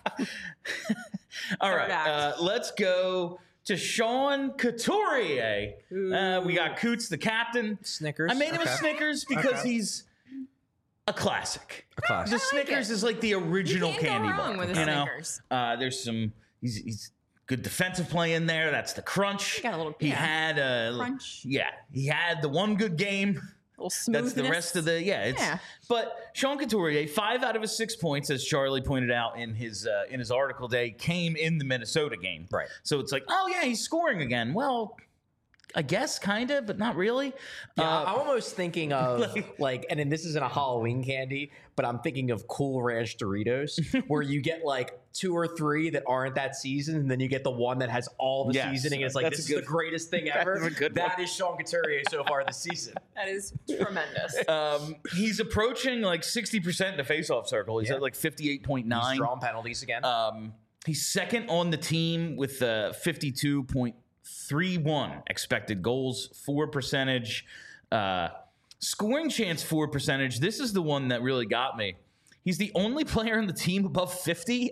[SPEAKER 1] All right. Let's go to Sean Couturier. We got Coots, the captain.
[SPEAKER 2] Snickers.
[SPEAKER 1] I made him a Snickers because he's a classic. The Snickers is like the original candy bar.
[SPEAKER 3] With the Snickers.
[SPEAKER 1] There's some. He's good defensive play in there. That's the crunch.
[SPEAKER 3] Got a little.
[SPEAKER 1] He had a
[SPEAKER 3] crunch.
[SPEAKER 1] Yeah, he had the one good game. That's the rest of the But Sean Couturier, 5 out of his 6 points, as Charlie pointed out in his article today, came in the Minnesota game.
[SPEAKER 2] Right.
[SPEAKER 1] So it's like, oh yeah, he's scoring again. Well, I guess kind of, but not really.
[SPEAKER 2] Yeah, I'm almost thinking of and then this isn't a Halloween candy, but I'm thinking of Cool Ranch Doritos, where you get like 2 or 3 that aren't that season, and then you get the one that has all the seasoning. And it's like, this is the greatest thing ever. That is Sean Couturier so far this season.
[SPEAKER 3] That is tremendous.
[SPEAKER 1] He's approaching like 60% in the faceoff circle. He's at like 58.9.
[SPEAKER 2] He's drawn penalties again.
[SPEAKER 1] He's second on the team with 52.31 expected goals for percentage. Scoring chance for percentage. This is the one that really got me. He's the only player on the team above 50,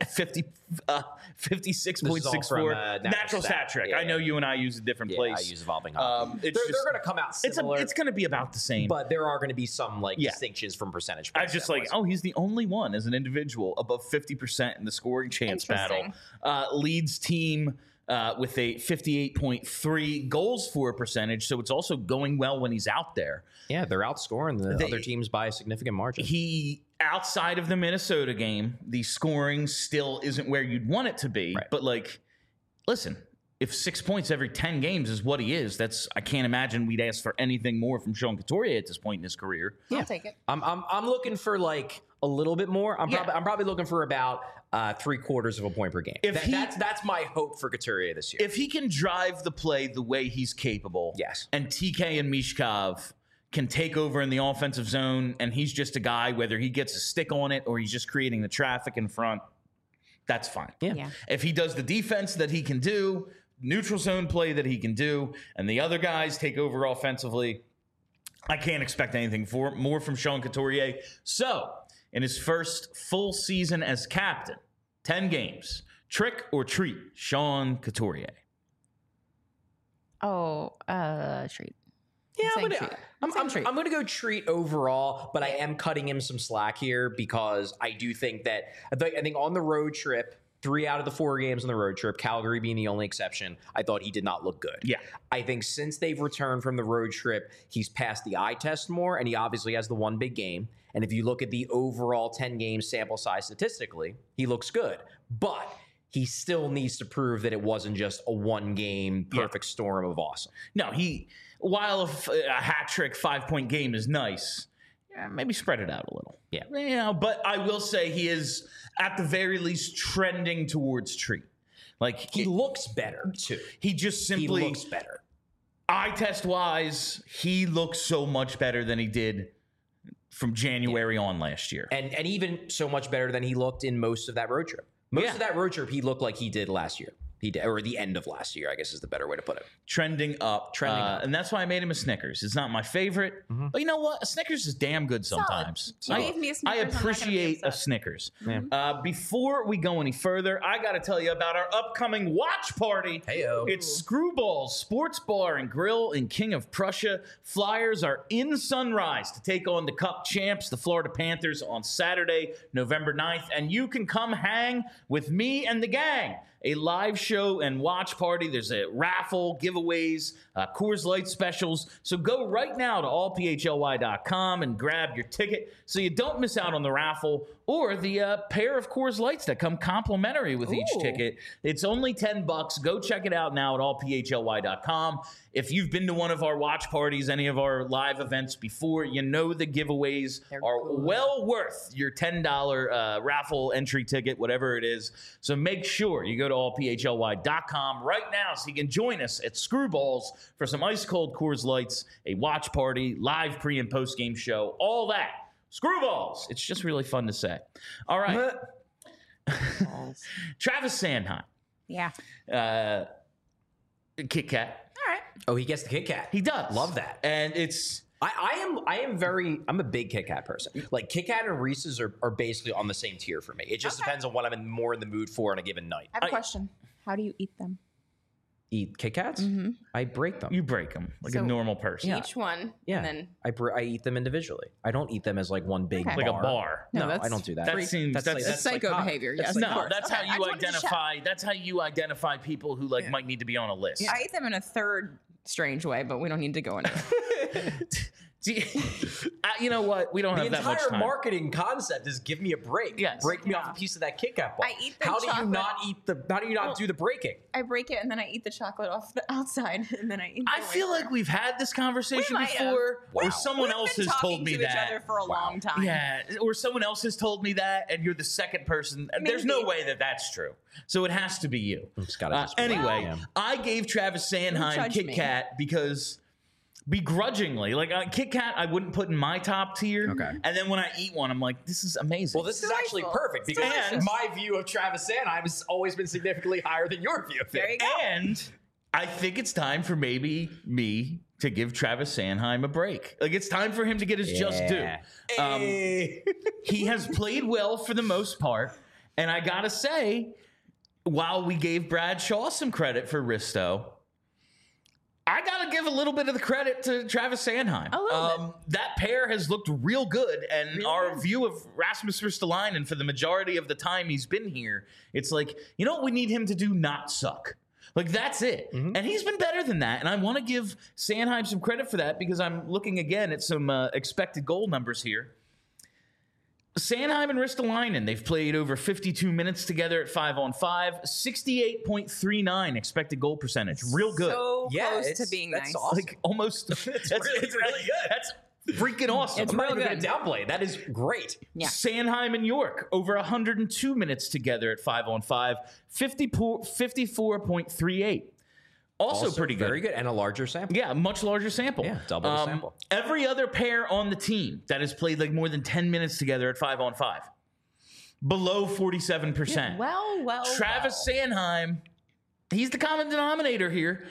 [SPEAKER 1] 56.64. Natural stat trick.
[SPEAKER 2] Yeah,
[SPEAKER 1] I know you and I use a different place.
[SPEAKER 2] I use evolving hockey. They're going to come out similar.
[SPEAKER 1] It's going to be about the same.
[SPEAKER 2] But there are going to be some distinctions from percentage.
[SPEAKER 1] I just he's the only one as an individual above 50% in the scoring chance battle. Leads team with a 58.3 goals for percentage. So it's also going well when he's out there.
[SPEAKER 2] Yeah, they're outscoring the other teams by a significant margin.
[SPEAKER 1] Outside of the Minnesota game, the scoring still isn't where you'd want it to be. Right. But listen, if 6 points every 10 games is what he is, I can't imagine we'd ask for anything more from Sean Couturier at this point in his career.
[SPEAKER 3] I'll take it.
[SPEAKER 2] I'm looking for a little bit more. I'm probably looking for about 3/4 of a point per game. That's my hope for Couturier this year.
[SPEAKER 1] If he can drive the play the way he's capable,
[SPEAKER 2] Yes.
[SPEAKER 1] and TK and Mishkov can take over in the offensive zone, and he's just a guy, whether he gets a stick on it or he's just creating the traffic in front, that's fine.
[SPEAKER 3] Yeah.
[SPEAKER 1] If he does the defense that he can do, neutral zone play that he can do, and the other guys take over offensively, I can't expect anything more from Sean Couturier. So, in his first full season as captain, 10 games, trick or treat, Sean Couturier.
[SPEAKER 3] Oh, treat.
[SPEAKER 2] Yeah,
[SPEAKER 3] I'm saying treat.
[SPEAKER 2] I'm going to go treat overall, but I am cutting him some slack here because I do think that I think on the road trip, 3 out of the 4 games on the road trip, Calgary being the only exception, I thought he did not look good.
[SPEAKER 1] Yeah.
[SPEAKER 2] I think since they've returned from the road trip, he's passed the eye test more, and he obviously has the one big game. And if you look at the overall 10-game sample size statistically, he looks good. But he still needs to prove that it wasn't just a one-game perfect storm of awesome.
[SPEAKER 1] No, while a hat trick 5-point game is nice, maybe spread it out a little.
[SPEAKER 2] Yeah.
[SPEAKER 1] But I will say he is at the very least trending towards treat. Like
[SPEAKER 2] He looks better, too.
[SPEAKER 1] he just
[SPEAKER 2] He
[SPEAKER 1] simply
[SPEAKER 2] looks better.
[SPEAKER 1] eye test wise, he looks so much better than he did from January on last year.
[SPEAKER 2] And even so much better than he looked in most of that road trip. Most of that road trip, he looked like he did last year. He did, or the end of last year, I guess is the better way to put it.
[SPEAKER 1] Trending up. And that's why I made him a Snickers. It's not my favorite, but you know what? A Snickers is damn good sometimes.
[SPEAKER 3] You gave me a Snickers,
[SPEAKER 1] I
[SPEAKER 3] I'm not gonna be
[SPEAKER 1] appreciate a
[SPEAKER 3] upset.
[SPEAKER 1] Snickers. Before we go any further, I got to tell you about our upcoming watch party.
[SPEAKER 2] Heyo.
[SPEAKER 1] It's Screwball's Sports Bar and Grill in King of Prussia. Flyers are in Sunrise to take on the Cup champs, the Florida Panthers, on Saturday, November 9th. And you can come hang with me and the gang. A live show and watch party. There's a raffle, giveaways, Coors Light specials. So go right now to allphly.com and grab your ticket so you don't miss out on the raffle or the pair of Coors Lights that come complimentary with each ticket. It's only $10. Go check it out now at allphly.com. If you've been to one of our watch parties, any of our live events before, you know the giveaways are well worth your $10 raffle entry ticket, whatever it is. So make sure you go to allphly.com right now so you can join us at Screwballs for some ice cold Coors Lights, a watch party, live pre and post game show, all that. Screwballs. It's just really fun to say. All right. Travis Sanheim.
[SPEAKER 3] Yeah.
[SPEAKER 1] Kit Kat.
[SPEAKER 3] All right.
[SPEAKER 2] Oh, he gets the Kit Kat.
[SPEAKER 1] He does.
[SPEAKER 2] Love that.
[SPEAKER 1] And it's...
[SPEAKER 2] I'm a big Kit Kat person. Like Kit Kat and Reese's are basically on the same tier for me. It just depends on what I'm more in the mood for on a given night.
[SPEAKER 3] I have a question. How do you eat them?
[SPEAKER 2] Eat Kit Kats? I break them.
[SPEAKER 1] You break them like a
[SPEAKER 3] So-
[SPEAKER 1] normal person.
[SPEAKER 3] Each one.
[SPEAKER 2] Yeah.
[SPEAKER 3] And then
[SPEAKER 2] I eat them individually. I don't eat them as like one big
[SPEAKER 3] Okay.
[SPEAKER 1] Like a bar.
[SPEAKER 2] No,
[SPEAKER 3] that's
[SPEAKER 2] I don't do that.
[SPEAKER 1] That seems...
[SPEAKER 3] that's psycho
[SPEAKER 2] like-
[SPEAKER 3] behavior.
[SPEAKER 2] that's
[SPEAKER 3] Yes.
[SPEAKER 2] like-
[SPEAKER 3] of
[SPEAKER 1] No,
[SPEAKER 3] course.
[SPEAKER 1] that's
[SPEAKER 3] Okay,
[SPEAKER 1] how
[SPEAKER 3] I
[SPEAKER 1] you
[SPEAKER 3] just wanted to check.
[SPEAKER 1] identify. That's how you identify people who might need to be on a list.
[SPEAKER 3] I eat them in a third strange way, but we don't need to go into it.
[SPEAKER 1] You know what? We don't
[SPEAKER 2] The
[SPEAKER 1] have that much
[SPEAKER 2] entire
[SPEAKER 1] time.
[SPEAKER 2] marketing concept is give me a break.
[SPEAKER 1] Yes.
[SPEAKER 2] Break me off a piece of that Kit Kat bar.
[SPEAKER 3] I eat the
[SPEAKER 2] How do you
[SPEAKER 3] chocolate-
[SPEAKER 2] not eat the? How do you not do the breaking?
[SPEAKER 3] I break it and then I eat the chocolate off the outside and then I eat.
[SPEAKER 1] I feel like we've had this conversation
[SPEAKER 3] We might have.
[SPEAKER 1] before,
[SPEAKER 2] Wow.
[SPEAKER 1] or someone
[SPEAKER 3] We've
[SPEAKER 1] else
[SPEAKER 3] been
[SPEAKER 1] has told
[SPEAKER 3] talking
[SPEAKER 1] me
[SPEAKER 3] to
[SPEAKER 1] that.
[SPEAKER 3] each other for a long time.
[SPEAKER 1] Yeah, or someone else has told me that, and you're the second person. There's no
[SPEAKER 3] Maybe.
[SPEAKER 1] way that that's true. So it has to be you.
[SPEAKER 2] It's gotta just be
[SPEAKER 1] Anyway,
[SPEAKER 2] me.
[SPEAKER 1] I gave Travis Sanheim
[SPEAKER 3] judge
[SPEAKER 1] Kit
[SPEAKER 3] me.
[SPEAKER 1] Kat because begrudgingly, like Kit Kat, I wouldn't put in my top tier.
[SPEAKER 2] Okay.
[SPEAKER 1] And then when I eat one, I'm like, this is amazing.
[SPEAKER 2] Well, this is actually
[SPEAKER 3] Delightful.
[SPEAKER 2] perfect
[SPEAKER 3] It's
[SPEAKER 2] because
[SPEAKER 3] delicious.
[SPEAKER 2] my view of Travis Sanheim has always been significantly higher than your view of
[SPEAKER 3] There you
[SPEAKER 2] it.
[SPEAKER 3] go.
[SPEAKER 1] And I think it's time for maybe me to give Travis Sanheim a break. Like, it's time for him to get his just due. He has played well for the most part. And I got to say, while we gave Brad Shaw some credit for Risto, I got to give a little bit of the credit to Travis Sanheim.
[SPEAKER 3] A little bit.
[SPEAKER 1] That pair has looked real good. And our view of Rasmus Ristolainen for the majority of the time he's been here, it's like, you know what we need him to do? Not suck. Like, that's it. And he's been better than that. And I want to give Sanheim some credit for that because I'm looking again at some expected goal numbers here. Sanheim and Ristolainen, they've played over 52 minutes together at 5-on-5, 68.39 expected goal percentage. Real good.
[SPEAKER 3] So
[SPEAKER 2] Yeah,
[SPEAKER 3] close
[SPEAKER 2] it's-
[SPEAKER 3] to being
[SPEAKER 2] that's
[SPEAKER 3] nice.
[SPEAKER 2] awesome.
[SPEAKER 1] Like almost. It's
[SPEAKER 2] really good.
[SPEAKER 1] That's freaking awesome.
[SPEAKER 3] It's
[SPEAKER 2] I'm not
[SPEAKER 3] real
[SPEAKER 2] even
[SPEAKER 3] good.
[SPEAKER 2] going to downplay. That is great.
[SPEAKER 3] Yeah.
[SPEAKER 1] Sanheim and York over 102 minutes together at 5-on-5, 54.38. Also pretty good.
[SPEAKER 2] Very good. And a larger sample.
[SPEAKER 1] Yeah, much larger sample.
[SPEAKER 2] Yeah, double the sample.
[SPEAKER 1] Every other pair on the team that has played like more than 10 minutes together at 5-on-5, below 47%.
[SPEAKER 3] Well.
[SPEAKER 1] Travis Sanheim, he's the common denominator here.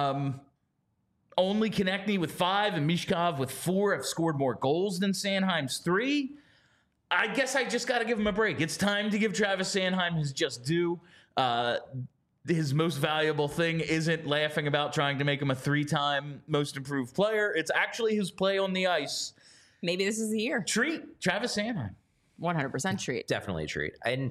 [SPEAKER 1] Only Konechny with 5 and Mishkov with 4 have scored more goals than Sanheim's 3. I guess I just got to give him a break. It's time to give Travis Sanheim his just due. His most valuable thing isn't laughing about trying to make him a 3-time most improved player. It's actually his play on the ice.
[SPEAKER 3] Maybe this is the year.
[SPEAKER 1] Treat Travis Sanheim.
[SPEAKER 3] 100% treat.
[SPEAKER 2] Definitely a treat. And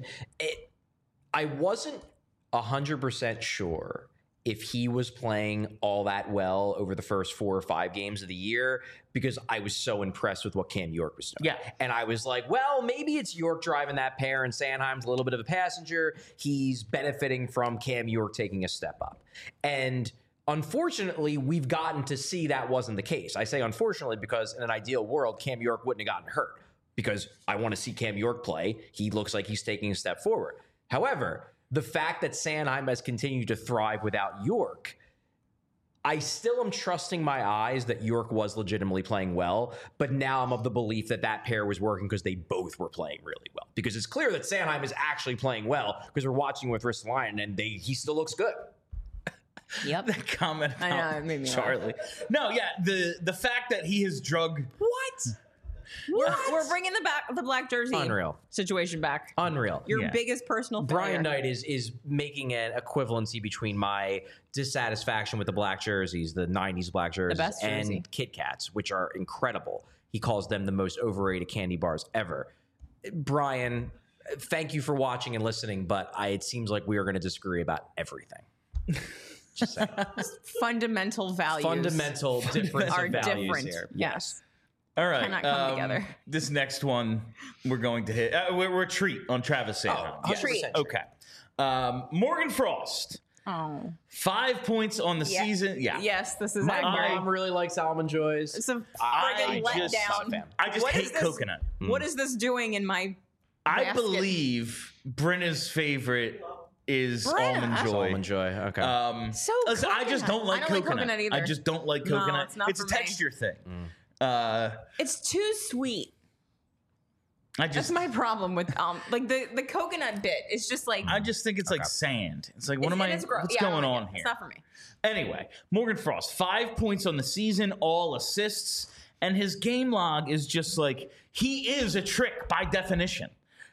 [SPEAKER 2] I wasn't 100% sure if he was playing all that well over the first 4 or 5 games of the year because I was so impressed with what Cam York was doing.
[SPEAKER 1] Yeah.
[SPEAKER 2] And I was like, well, maybe it's York driving that pair and Sanheim's a little bit of a passenger. He's benefiting from Cam York taking a step up. And unfortunately, we've gotten to see that wasn't the case. I say unfortunately because in an ideal world, Cam York wouldn't have gotten hurt because I want to see Cam York play. He looks like he's taking a step forward. However, the fact that Sanheim has continued to thrive without York, I still am trusting my eyes that York was legitimately playing well, but now I'm of the belief that that pair was working because they both were playing really well. Because it's clear that Sanheim is actually playing well because we're watching with Ristolainen and he still looks good.
[SPEAKER 3] Yep.
[SPEAKER 1] That comment
[SPEAKER 3] I know,
[SPEAKER 1] about
[SPEAKER 3] it made me laugh.
[SPEAKER 1] Charlie. No, yeah, the fact that he has drug.
[SPEAKER 2] What?
[SPEAKER 3] We're bringing the black jersey
[SPEAKER 2] Unreal.
[SPEAKER 3] situation back.
[SPEAKER 2] Unreal.
[SPEAKER 3] Your
[SPEAKER 1] Yeah.
[SPEAKER 3] biggest personal failure.
[SPEAKER 2] Brian Knight is making an equivalency between my dissatisfaction with the black jerseys, the 90s black jerseys,
[SPEAKER 3] best jersey.
[SPEAKER 2] and Kit Kats, which are incredible. He calls them the most overrated candy bars ever. Brian, thank you for watching and listening, but it seems like we are going to disagree about everything. Just saying.
[SPEAKER 3] Fundamental values
[SPEAKER 2] Fundamental difference
[SPEAKER 3] are
[SPEAKER 2] of values
[SPEAKER 3] different.
[SPEAKER 2] here.
[SPEAKER 3] Yes.
[SPEAKER 1] All right.
[SPEAKER 3] Cannot come together.
[SPEAKER 1] This next one we're going to hit. We're a treat on Travis Sanheim.
[SPEAKER 2] Oh,
[SPEAKER 1] Yes.
[SPEAKER 3] treat.
[SPEAKER 1] Okay. Morgan Frost,
[SPEAKER 3] Oh.
[SPEAKER 1] 5 points on the season. Yeah.
[SPEAKER 3] Yes, this is
[SPEAKER 2] My
[SPEAKER 3] accurate.
[SPEAKER 2] mom really likes almond joys.
[SPEAKER 3] It's a
[SPEAKER 1] I
[SPEAKER 3] friggin'
[SPEAKER 1] just-
[SPEAKER 3] letdown.
[SPEAKER 1] I just
[SPEAKER 3] What is
[SPEAKER 1] hate
[SPEAKER 3] this-
[SPEAKER 1] coconut.
[SPEAKER 3] What is this doing in my
[SPEAKER 1] I
[SPEAKER 3] basket?
[SPEAKER 1] believe Brenna's favorite is
[SPEAKER 3] Brenna.
[SPEAKER 1] Almond Joy.
[SPEAKER 2] Almond joy. Okay.
[SPEAKER 3] So
[SPEAKER 1] Listen, I just
[SPEAKER 3] coconut.
[SPEAKER 1] don't like
[SPEAKER 3] I don't like
[SPEAKER 1] coconut.
[SPEAKER 3] coconut either.
[SPEAKER 1] I just don't like
[SPEAKER 3] No,
[SPEAKER 1] coconut.
[SPEAKER 3] it's not
[SPEAKER 1] a
[SPEAKER 3] for me.
[SPEAKER 1] texture thing.
[SPEAKER 3] It's too sweet.
[SPEAKER 1] I
[SPEAKER 3] That's
[SPEAKER 1] just
[SPEAKER 3] my problem with like the coconut bit. It's just like
[SPEAKER 1] I just think it's like sand. It's like what am
[SPEAKER 3] and
[SPEAKER 1] I?
[SPEAKER 3] it's gross.
[SPEAKER 1] What's
[SPEAKER 3] Yeah, I don't
[SPEAKER 1] going
[SPEAKER 3] like
[SPEAKER 1] on
[SPEAKER 3] it.
[SPEAKER 1] here?
[SPEAKER 3] It's not for me.
[SPEAKER 1] Anyway, Morgan Frost, 5 points on the season, all assists, and his game log is just like he is a trick by definition.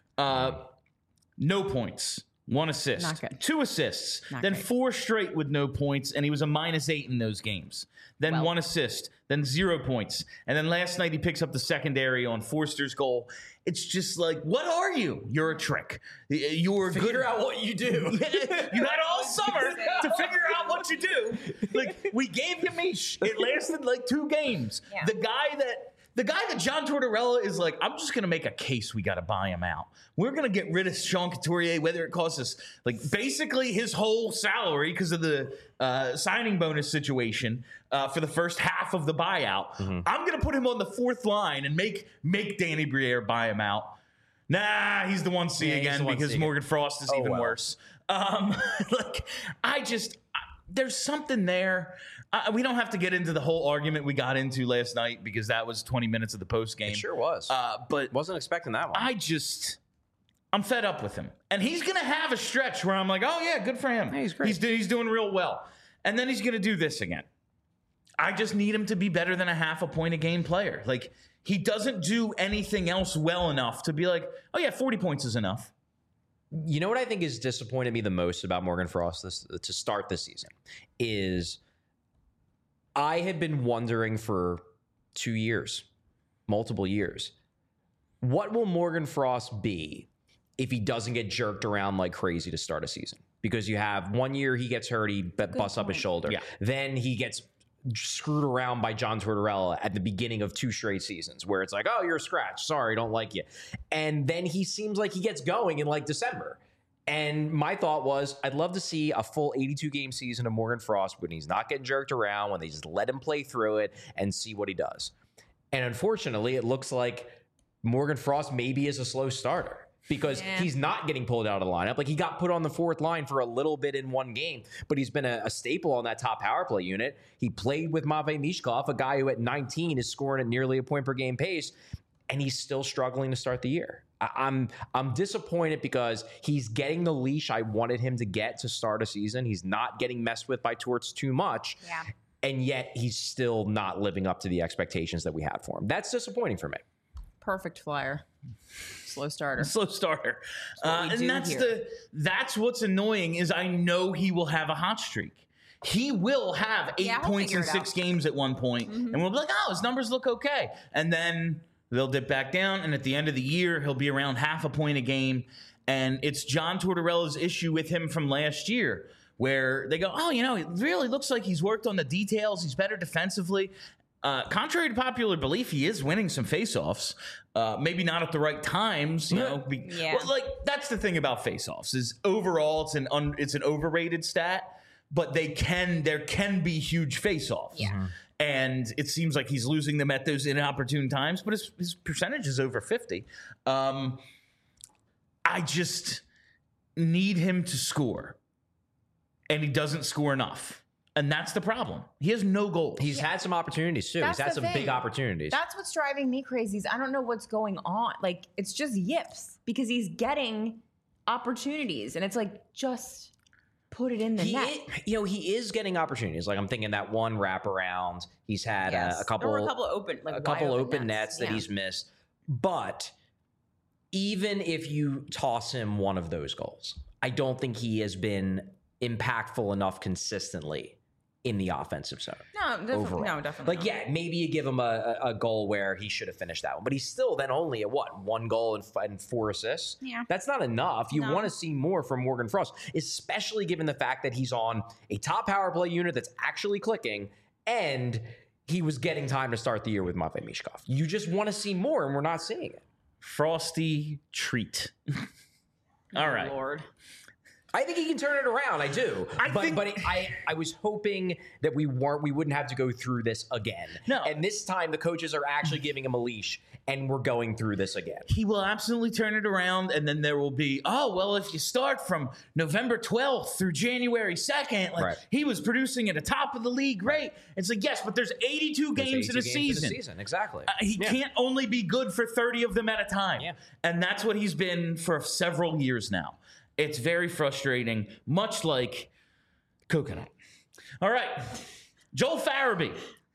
[SPEAKER 1] No points, 1 assist,
[SPEAKER 3] Not good.
[SPEAKER 1] 2 assists,
[SPEAKER 3] Not
[SPEAKER 1] then
[SPEAKER 3] great.
[SPEAKER 1] 4 straight with no points, and he was a -8 in those games. Then
[SPEAKER 3] Well.
[SPEAKER 1] 1 assist, then 0 points, and then last night he picks up the secondary on Forster's goal. It's just like, what are you? You're a trick. You're good.
[SPEAKER 2] Figure out what you do.
[SPEAKER 1] You had all summer to figure out what you do. Like, we gave you Mish. It lasted like 2 games.
[SPEAKER 3] Yeah.
[SPEAKER 1] The guy that John Tortorella is like, I'm just gonna make a case we gotta buy him out. We're gonna get rid of Sean Couturier, whether it costs us like basically his whole salary because of the signing bonus situation for the first half of the buyout. I'm gonna put him on the 4th line and make Danny Briere buy him out. Nah, he's the 1C
[SPEAKER 2] Yeah, he's
[SPEAKER 1] again
[SPEAKER 2] the 1C
[SPEAKER 1] because
[SPEAKER 2] again.
[SPEAKER 1] Morgan Frost is even
[SPEAKER 2] well.
[SPEAKER 1] worse. Like, there's something there. We don't have to get into the whole argument we got into last night because that was 20 minutes of the post game.
[SPEAKER 2] It sure was.
[SPEAKER 1] But
[SPEAKER 2] Wasn't expecting that one.
[SPEAKER 1] I'm fed up with him, and he's gonna have a stretch where I'm like, oh yeah, good for him.
[SPEAKER 2] Yeah, he's great.
[SPEAKER 1] He's doing real well, and then he's gonna do this again. I just need him to be better than a half a point a game player. Like, he doesn't do anything else well enough to be like, oh yeah, 40 points is enough.
[SPEAKER 2] You know what I think has disappointed me the most about Morgan Frost to start this season is I had been wondering for 2 years, multiple years, what will Morgan Frost be if he doesn't get jerked around like crazy to start a season? Because you have 1 year he gets hurt, he busts up his shoulder.
[SPEAKER 1] Yeah.
[SPEAKER 2] Then he gets screwed around by John Tortorella at the beginning of 2 straight seasons where it's like, oh, you're a scratch. Sorry, don't like you. And then he seems like he gets going in like December. And my thought was, I'd love to see a full 82-game season of Morgan Frost when he's not getting jerked around, when they just let him play through it and see what he does. And unfortunately, it looks like Morgan Frost maybe is a slow starter because he's not getting pulled out of the lineup. Like, he got put on the fourth line for a little bit in one game, but he's been a staple on that top power play unit. He played with Matvei Mishkov, a guy who at 19 is scoring at nearly a point per game pace, and he's still struggling to start the year. I'm disappointed because he's getting the leash I wanted him to get to start a season. He's not getting messed with by Torts too much.
[SPEAKER 3] Yeah.
[SPEAKER 2] And yet he's still not living up to the expectations that we had for him. That's disappointing for me.
[SPEAKER 3] Perfect flyer. Slow starter.
[SPEAKER 1] Slow starter.
[SPEAKER 3] what we do here.
[SPEAKER 1] That's what's annoying is I know he will have a hot streak. He will have 8
[SPEAKER 3] Yeah, he'll
[SPEAKER 1] points in
[SPEAKER 3] figure it
[SPEAKER 1] 6
[SPEAKER 3] out.
[SPEAKER 1] games at one point, and we'll be like, oh, his numbers look okay. And then they'll dip back down, and at the end of the year, he'll be around half a point a game. And it's John Tortorella's issue with him from last year, where they go, oh, it really looks like he's worked on the details. He's better defensively. Contrary to popular belief, he is winning some faceoffs. Maybe not at the right times,
[SPEAKER 3] Yeah.
[SPEAKER 1] Well, like, that's the thing about faceoffs is overall it's an overrated stat, but there can be huge faceoffs.
[SPEAKER 3] Yeah.
[SPEAKER 1] And it seems like he's losing them at those inopportune times, but his percentage is over 50. I just need him to score, and he doesn't score enough. And that's the problem. He has no goals.
[SPEAKER 2] He's had some opportunities too.
[SPEAKER 3] That's
[SPEAKER 2] He's had
[SPEAKER 3] the
[SPEAKER 2] some big
[SPEAKER 3] thing.
[SPEAKER 2] opportunities.
[SPEAKER 3] That's what's driving me crazy. Is I don't know what's going on. Like, it's just yips because he's getting opportunities, and it's like, just put it in the net.
[SPEAKER 2] He is getting opportunities. Like, I'm thinking that one wraparound. He's had
[SPEAKER 3] Yes.
[SPEAKER 2] a couple,
[SPEAKER 3] There were a couple of open, like, wide
[SPEAKER 2] open nets that
[SPEAKER 3] Yeah.
[SPEAKER 2] he's missed. But even if you toss him one of those goals, I don't think he has been impactful enough consistently in the offensive zone.
[SPEAKER 3] No, definitely.
[SPEAKER 2] Overall.
[SPEAKER 3] No, definitely.
[SPEAKER 2] Like, yeah, maybe you give him a goal where he should have finished that one, but he's still then only at what, 1 goal and 4 assists?
[SPEAKER 3] Yeah.
[SPEAKER 2] That's not enough. You
[SPEAKER 3] No.
[SPEAKER 2] want to see more from Morgan Frost, especially given the fact that he's on a top power play unit that's actually clicking, and he was getting time to start the year with Matvei Mishkov. You just want to see more, and we're not seeing it.
[SPEAKER 1] Frosty treat. All right.
[SPEAKER 3] Lord.
[SPEAKER 2] I think he can turn it around. I do. I was hoping that we wouldn't have to go through this again.
[SPEAKER 1] No.
[SPEAKER 2] And this time the coaches are actually giving him a leash, and we're going through this again.
[SPEAKER 1] He will absolutely turn it around, and then there will be, oh, well, if you start from November 12th through January 2nd, like,
[SPEAKER 2] Right.
[SPEAKER 1] he was producing at the top of the league rate. It's like, yes, but there's 82 games in a season.
[SPEAKER 2] Exactly.
[SPEAKER 1] He can't only be good for 30 of them at a time.
[SPEAKER 2] Yeah.
[SPEAKER 1] And that's what he's been for several years now. It's very frustrating, much like coconut. All right. Joel Farabee.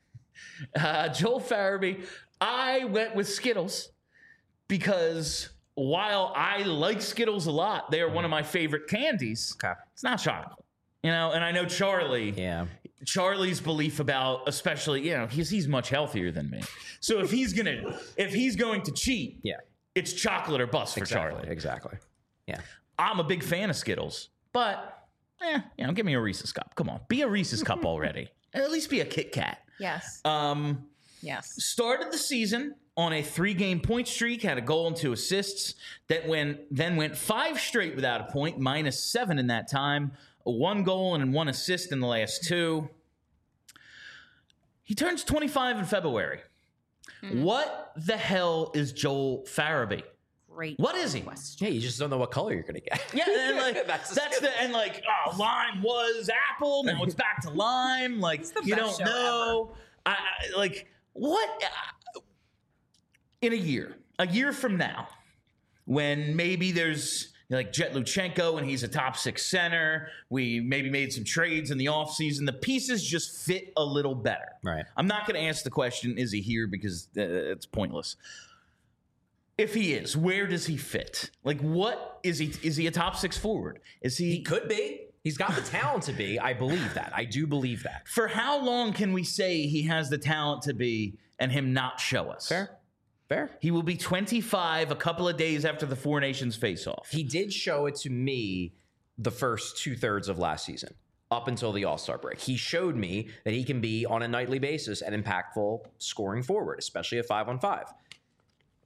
[SPEAKER 1] Joel Farabee. I went with Skittles because while I like Skittles a lot, they are one of my favorite candies.
[SPEAKER 2] Okay.
[SPEAKER 1] It's not chocolate. And I know Charlie.
[SPEAKER 2] Yeah.
[SPEAKER 1] Charlie's belief about, especially, he's much healthier than me. So if he's going to cheat,
[SPEAKER 2] Yeah.
[SPEAKER 1] it's chocolate or bust for Charlie.
[SPEAKER 2] Exactly. Yeah.
[SPEAKER 1] I'm a big fan of Skittles, but give me a Reese's cup. Come on, be a Reese's cup already. At least be a Kit Kat.
[SPEAKER 3] Yes. Yes.
[SPEAKER 1] Started the season on a 3-game point streak, had a goal and 2 assists. Then went 5 straight without a point, -7 in that time. 1 goal and 1 assist in the last 2. He turns 25 in February. What the hell is Joel Farabee?
[SPEAKER 3] Great.
[SPEAKER 1] What is he?
[SPEAKER 3] question.
[SPEAKER 2] Yeah, you just don't know what color you're going to get.
[SPEAKER 1] Yeah, and like
[SPEAKER 2] That's
[SPEAKER 1] lime was apple. Now it's back to lime. Like,
[SPEAKER 3] the
[SPEAKER 1] you
[SPEAKER 3] best
[SPEAKER 1] don't
[SPEAKER 3] show
[SPEAKER 1] know. I like what in a year from now, when maybe there's like Jet Luchenko and he's a top 6 center. We maybe made some trades in the offseason. The pieces just fit a little better.
[SPEAKER 2] Right.
[SPEAKER 1] I'm not going to ask the question, is he here? Because it's pointless. If he is, where does he fit? Like, what is he? Is he a top 6 forward? Is he?
[SPEAKER 2] He could be. He's got the talent to be. I believe that. I do believe that.
[SPEAKER 1] For how long can we say he has the talent to be and him not show us?
[SPEAKER 2] Fair.
[SPEAKER 1] He will be 25 a couple of days after the Four Nations face-off.
[SPEAKER 2] He did show it to me the first 2/3 of last season, up until the All-Star break. He showed me that he can be on a nightly basis an impactful scoring forward, especially at 5-on-5.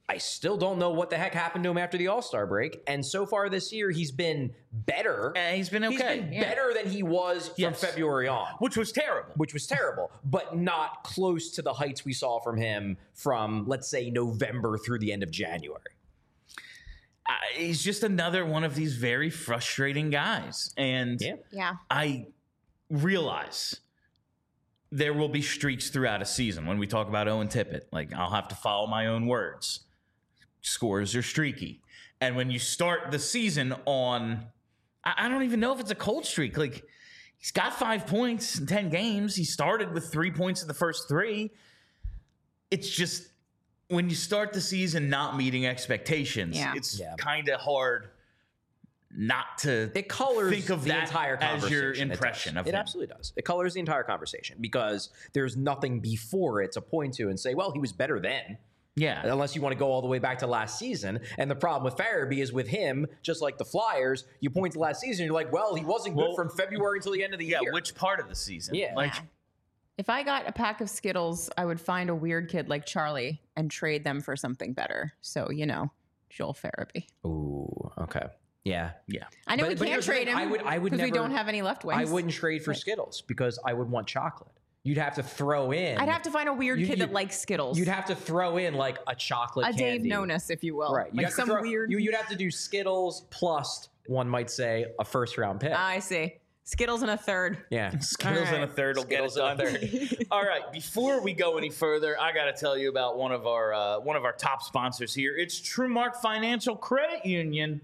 [SPEAKER 2] I still don't know what the heck happened to him after the All-Star break. And so far this year, he's been better.
[SPEAKER 1] He's been okay.
[SPEAKER 2] He's been better than he was from February on.
[SPEAKER 1] Which was terrible.
[SPEAKER 2] But not close to the heights we saw from him from, let's say, November through the end of January.
[SPEAKER 1] He's just another one of these very frustrating guys. And I realize there will be streaks throughout a season. When we talk about Owen Tippett, like, I'll have to follow my own words. Scores are streaky. And when you start the season on, I don't even know if it's a cold streak. Like, he's got 5 points in 10 games. He started with 3 points in the first 3. It's just, when you start the season not meeting expectations, it's kind of hard not to think of that
[SPEAKER 2] entire
[SPEAKER 1] as your impression of him.
[SPEAKER 2] It absolutely does. It colors the entire conversation because there's nothing before it to point to and say, well, he was better then.
[SPEAKER 1] Yeah.
[SPEAKER 2] Unless you want to go all the way back to last season. And the problem with Farabee is with him, just like the Flyers, you point to last season, you're like, well, he wasn't good from February until the end of the year.
[SPEAKER 1] Yeah, which part of the season?
[SPEAKER 2] Yeah.
[SPEAKER 1] Like,
[SPEAKER 3] if I got a pack of Skittles, I would find a weird kid like Charlie and trade them for something better. So, Joel Farabee.
[SPEAKER 2] Ooh, okay. Yeah.
[SPEAKER 3] I know we can't trade him because we don't have any left wings.
[SPEAKER 2] I wouldn't trade for Skittles because I would want chocolate. You'd have to throw in.
[SPEAKER 3] I'd have to find a weird kid that likes Skittles.
[SPEAKER 2] You'd have to throw in like a chocolate candy.
[SPEAKER 3] Dave Nonis, if you will.
[SPEAKER 2] Right.
[SPEAKER 3] Like some weird.
[SPEAKER 2] You'd have to do Skittles plus, one might say, a first-round pick.
[SPEAKER 3] I see. Skittles and a third.
[SPEAKER 2] Yeah.
[SPEAKER 1] Skittles and a third will get it done. All right. Before we go any further, I got to tell you about one of our top sponsors here. It's TrueMark Financial Credit Union.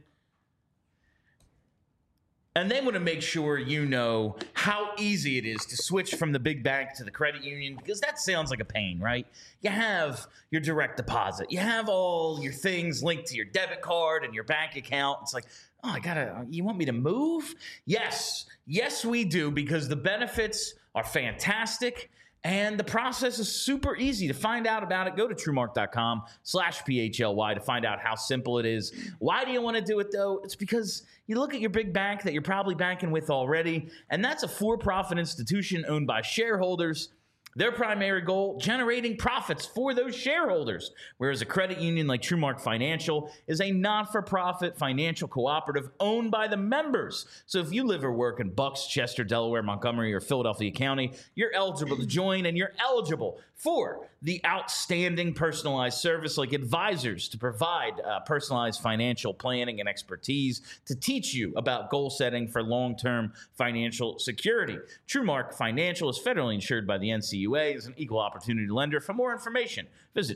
[SPEAKER 1] And they want to make sure you know how easy it is to switch from the big bank to the credit union, because that sounds like a pain, right? You have your direct deposit. You have all your things linked to your debit card and your bank account. It's like, oh, you want me to move? Yes, we do, because the benefits are fantastic. And the process is super easy. To find out about it, go to TrueMark.com/PHLY to find out how simple it is. Why do you want to do it, though? It's because you look at your big bank that you're probably banking with already, and that's a for-profit institution owned by shareholders. Their primary goal, generating profits for those shareholders, whereas a credit union like TrueMark Financial is a not-for-profit financial cooperative owned by the members. So if you live or work in Bucks, Chester, Delaware, Montgomery, or Philadelphia County, you're eligible to join, and you're eligible for the outstanding personalized service like advisors to provide personalized financial planning and expertise to teach you about goal setting for long-term financial security. TrueMark Financial is federally insured by the NCUA, is an equal opportunity lender. For more information, visit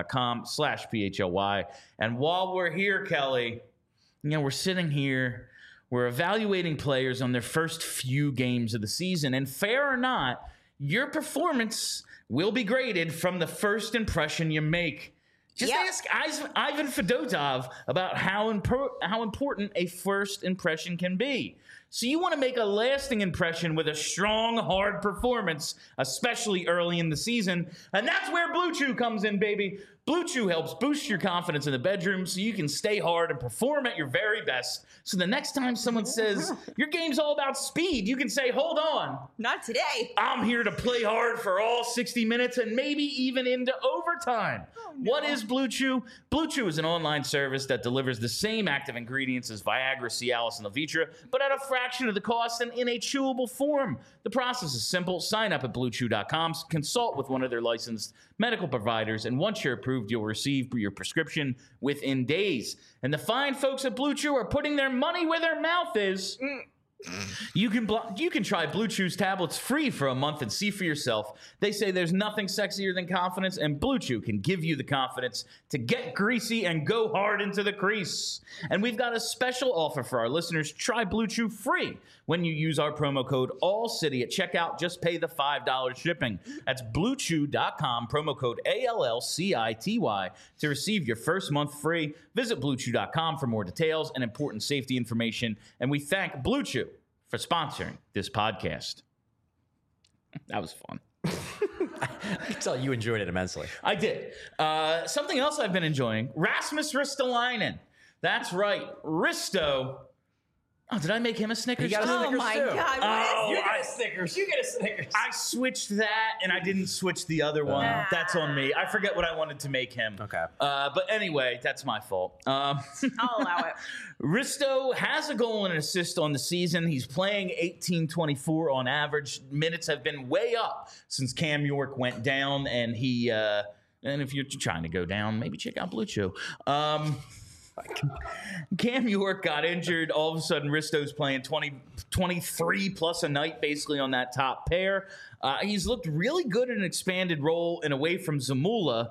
[SPEAKER 1] TrueMark.com/PHLY. And while we're here, Kelly, we're sitting here, we're evaluating players on their first few games of the season, and fair or not, your performance will be graded from the first impression you make. Just ask Ivan Fedotov about how important a first impression can be. So you want to make a lasting impression with a strong, hard performance, especially early in the season. And that's where Blue Chew comes in, baby. Blue Chew helps boost your confidence in the bedroom so you can stay hard and perform at your very best. So the next time someone says, your game's all about speed, you can say, hold on.
[SPEAKER 3] Not today.
[SPEAKER 1] I'm here to play hard for all 60 minutes and maybe even into overtime. Oh, no. What is Blue Chew? Blue Chew is an online service that delivers the same active ingredients as Viagra, Cialis, and Levitra, but at a fraction of the cost and in a chewable form. The process is simple. Sign up at BlueChew.com, consult with one of their licensed medical providers, and once you're approved, you'll receive your prescription within days. And the fine folks at Blue Chew are putting their money where their mouth is. You can try Blue Chew's tablets free for a month and see for yourself. They say there's nothing sexier than confidence, and Blue Chew can give you the confidence to get greasy and go hard into the crease. And we've got a special offer for our listeners. Try Blue Chew free when you use our promo code ALLCITY at checkout. Just pay the $5 shipping. That's BlueChew.com, promo code ALLCITY to receive your first month free. Visit BlueChew.com for more details and important safety information. And we thank Blue Chew for sponsoring this podcast. That was fun.
[SPEAKER 2] I can tell you enjoyed it immensely.
[SPEAKER 1] I did. Something else I've been enjoying, Rasmus Ristolainen. That's right. Risto Oh, did I make him a Snickers?
[SPEAKER 2] He got a
[SPEAKER 1] too?
[SPEAKER 3] Oh
[SPEAKER 2] Snickers
[SPEAKER 3] my
[SPEAKER 2] too.
[SPEAKER 3] God.
[SPEAKER 1] Oh,
[SPEAKER 2] You get a Snickers. You get a Snickers.
[SPEAKER 1] I switched that, and I didn't switch the other one.
[SPEAKER 3] Ah.
[SPEAKER 1] That's on me. I forget what I wanted to make him.
[SPEAKER 2] Okay.
[SPEAKER 1] But anyway, that's my fault.
[SPEAKER 3] I'll allow it.
[SPEAKER 1] Risto has a goal and an assist on the season. He's playing 18-24 on average. Minutes have been way up since Cam York went down, and he. And if you're trying to go down, maybe check out Blue Chew. Cam York got injured. All of a sudden, Risto's playing 23 plus a night, basically on that top pair. He's looked really good in an expanded role and away from Zamula.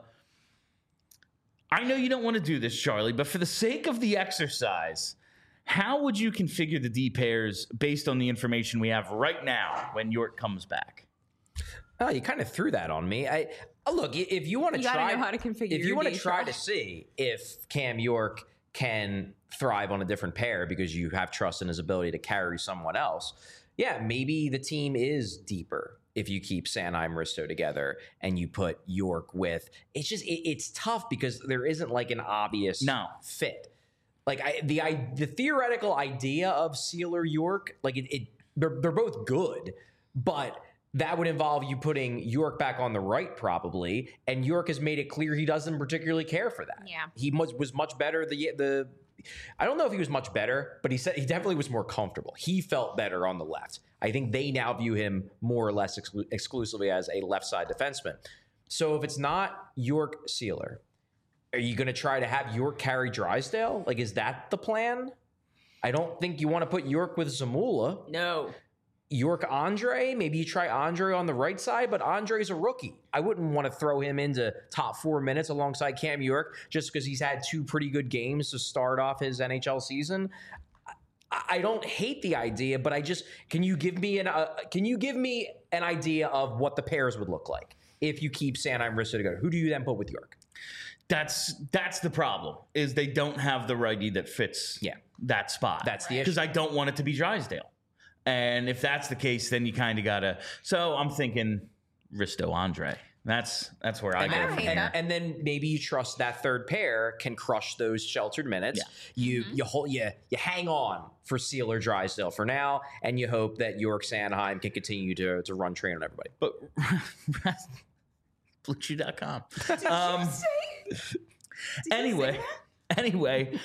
[SPEAKER 1] I know you don't want to do this, Charlie, but for the sake of the exercise, how would you configure the D pairs based on the information we have right now when York comes back?
[SPEAKER 2] Oh, you kind of threw that on me. Look, if you want to
[SPEAKER 3] You gotta
[SPEAKER 2] try,
[SPEAKER 3] know how to configure
[SPEAKER 2] if you
[SPEAKER 3] your
[SPEAKER 2] want to
[SPEAKER 3] D,
[SPEAKER 2] try
[SPEAKER 3] Charlie.
[SPEAKER 2] to see if Cam York can thrive on a different pair because you have trust in his ability to carry someone else, yeah, maybe the team is deeper if you keep Sanheim Risto together and you put York with. It's just it's tough because there isn't like an obvious fit. Like the theoretical idea of Sealer York, like they're both good, but that would involve you putting York back on the right probably, and York has made it clear he doesn't particularly care for that.
[SPEAKER 3] Yeah.
[SPEAKER 2] He was much better. I don't know if he was much better, but he said he definitely was more comfortable. He felt better on the left. I think they now view him more or less exclusively as a left side defenseman. So if it's not York Sealer, are you going to try to have York carry Drysdale? Like, is that the plan? I don't think you want to put York with Zamula.
[SPEAKER 3] No.
[SPEAKER 2] York Andre, maybe you try Andre on the right side, but Andre's a rookie. I wouldn't want to throw him into top 4 minutes alongside Cam York just because he's had 2 pretty good games to start off his NHL season. I don't hate the idea, but can you give me an idea of what the pairs would look like if you keep Sanheim Risto together? Who do you then put with York?
[SPEAKER 1] That's the problem, is they don't have the righty that fits that spot.
[SPEAKER 2] That's the issue.
[SPEAKER 1] Because I don't want it to be Drysdale. And if that's the case, then you kind of got to. So I'm thinking Risto Andre. That's where I go from there.
[SPEAKER 2] And then maybe you trust that third pair can crush those sheltered minutes. Yeah. You hang on for Sealer Drysdale for now, and you hope that York Sanheim can continue to run train on everybody.
[SPEAKER 1] But BlueChew.com. Anyway,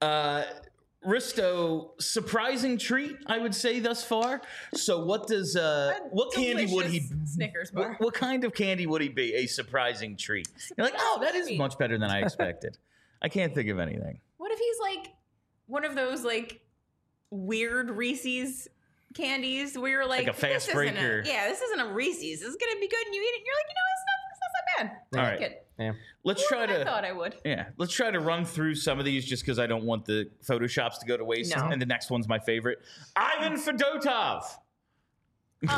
[SPEAKER 1] Risto, surprising treat, I would say, thus far. So what does what candy would he
[SPEAKER 3] Snickers bar.
[SPEAKER 1] what kind of candy would he be? A surprising treat. You're like, oh, that is much better than I expected. I can't think of anything.
[SPEAKER 3] What if he's like one of those like weird Reese's candies where you're like
[SPEAKER 1] a fast breaker.
[SPEAKER 3] This isn't a Reese's. This is gonna be good, and you eat it, and you're like, you know, it's not that bad.
[SPEAKER 1] All
[SPEAKER 3] I
[SPEAKER 1] right.
[SPEAKER 3] like it.
[SPEAKER 2] Yeah.
[SPEAKER 1] Let's
[SPEAKER 3] More
[SPEAKER 1] try
[SPEAKER 3] than
[SPEAKER 1] to.
[SPEAKER 3] I thought I would.
[SPEAKER 1] Yeah, let's try to run through some of these just because I don't want the Photoshops to go to waste.
[SPEAKER 3] No.
[SPEAKER 1] And the next one's my favorite. Ivan Fedotov.
[SPEAKER 3] Oh.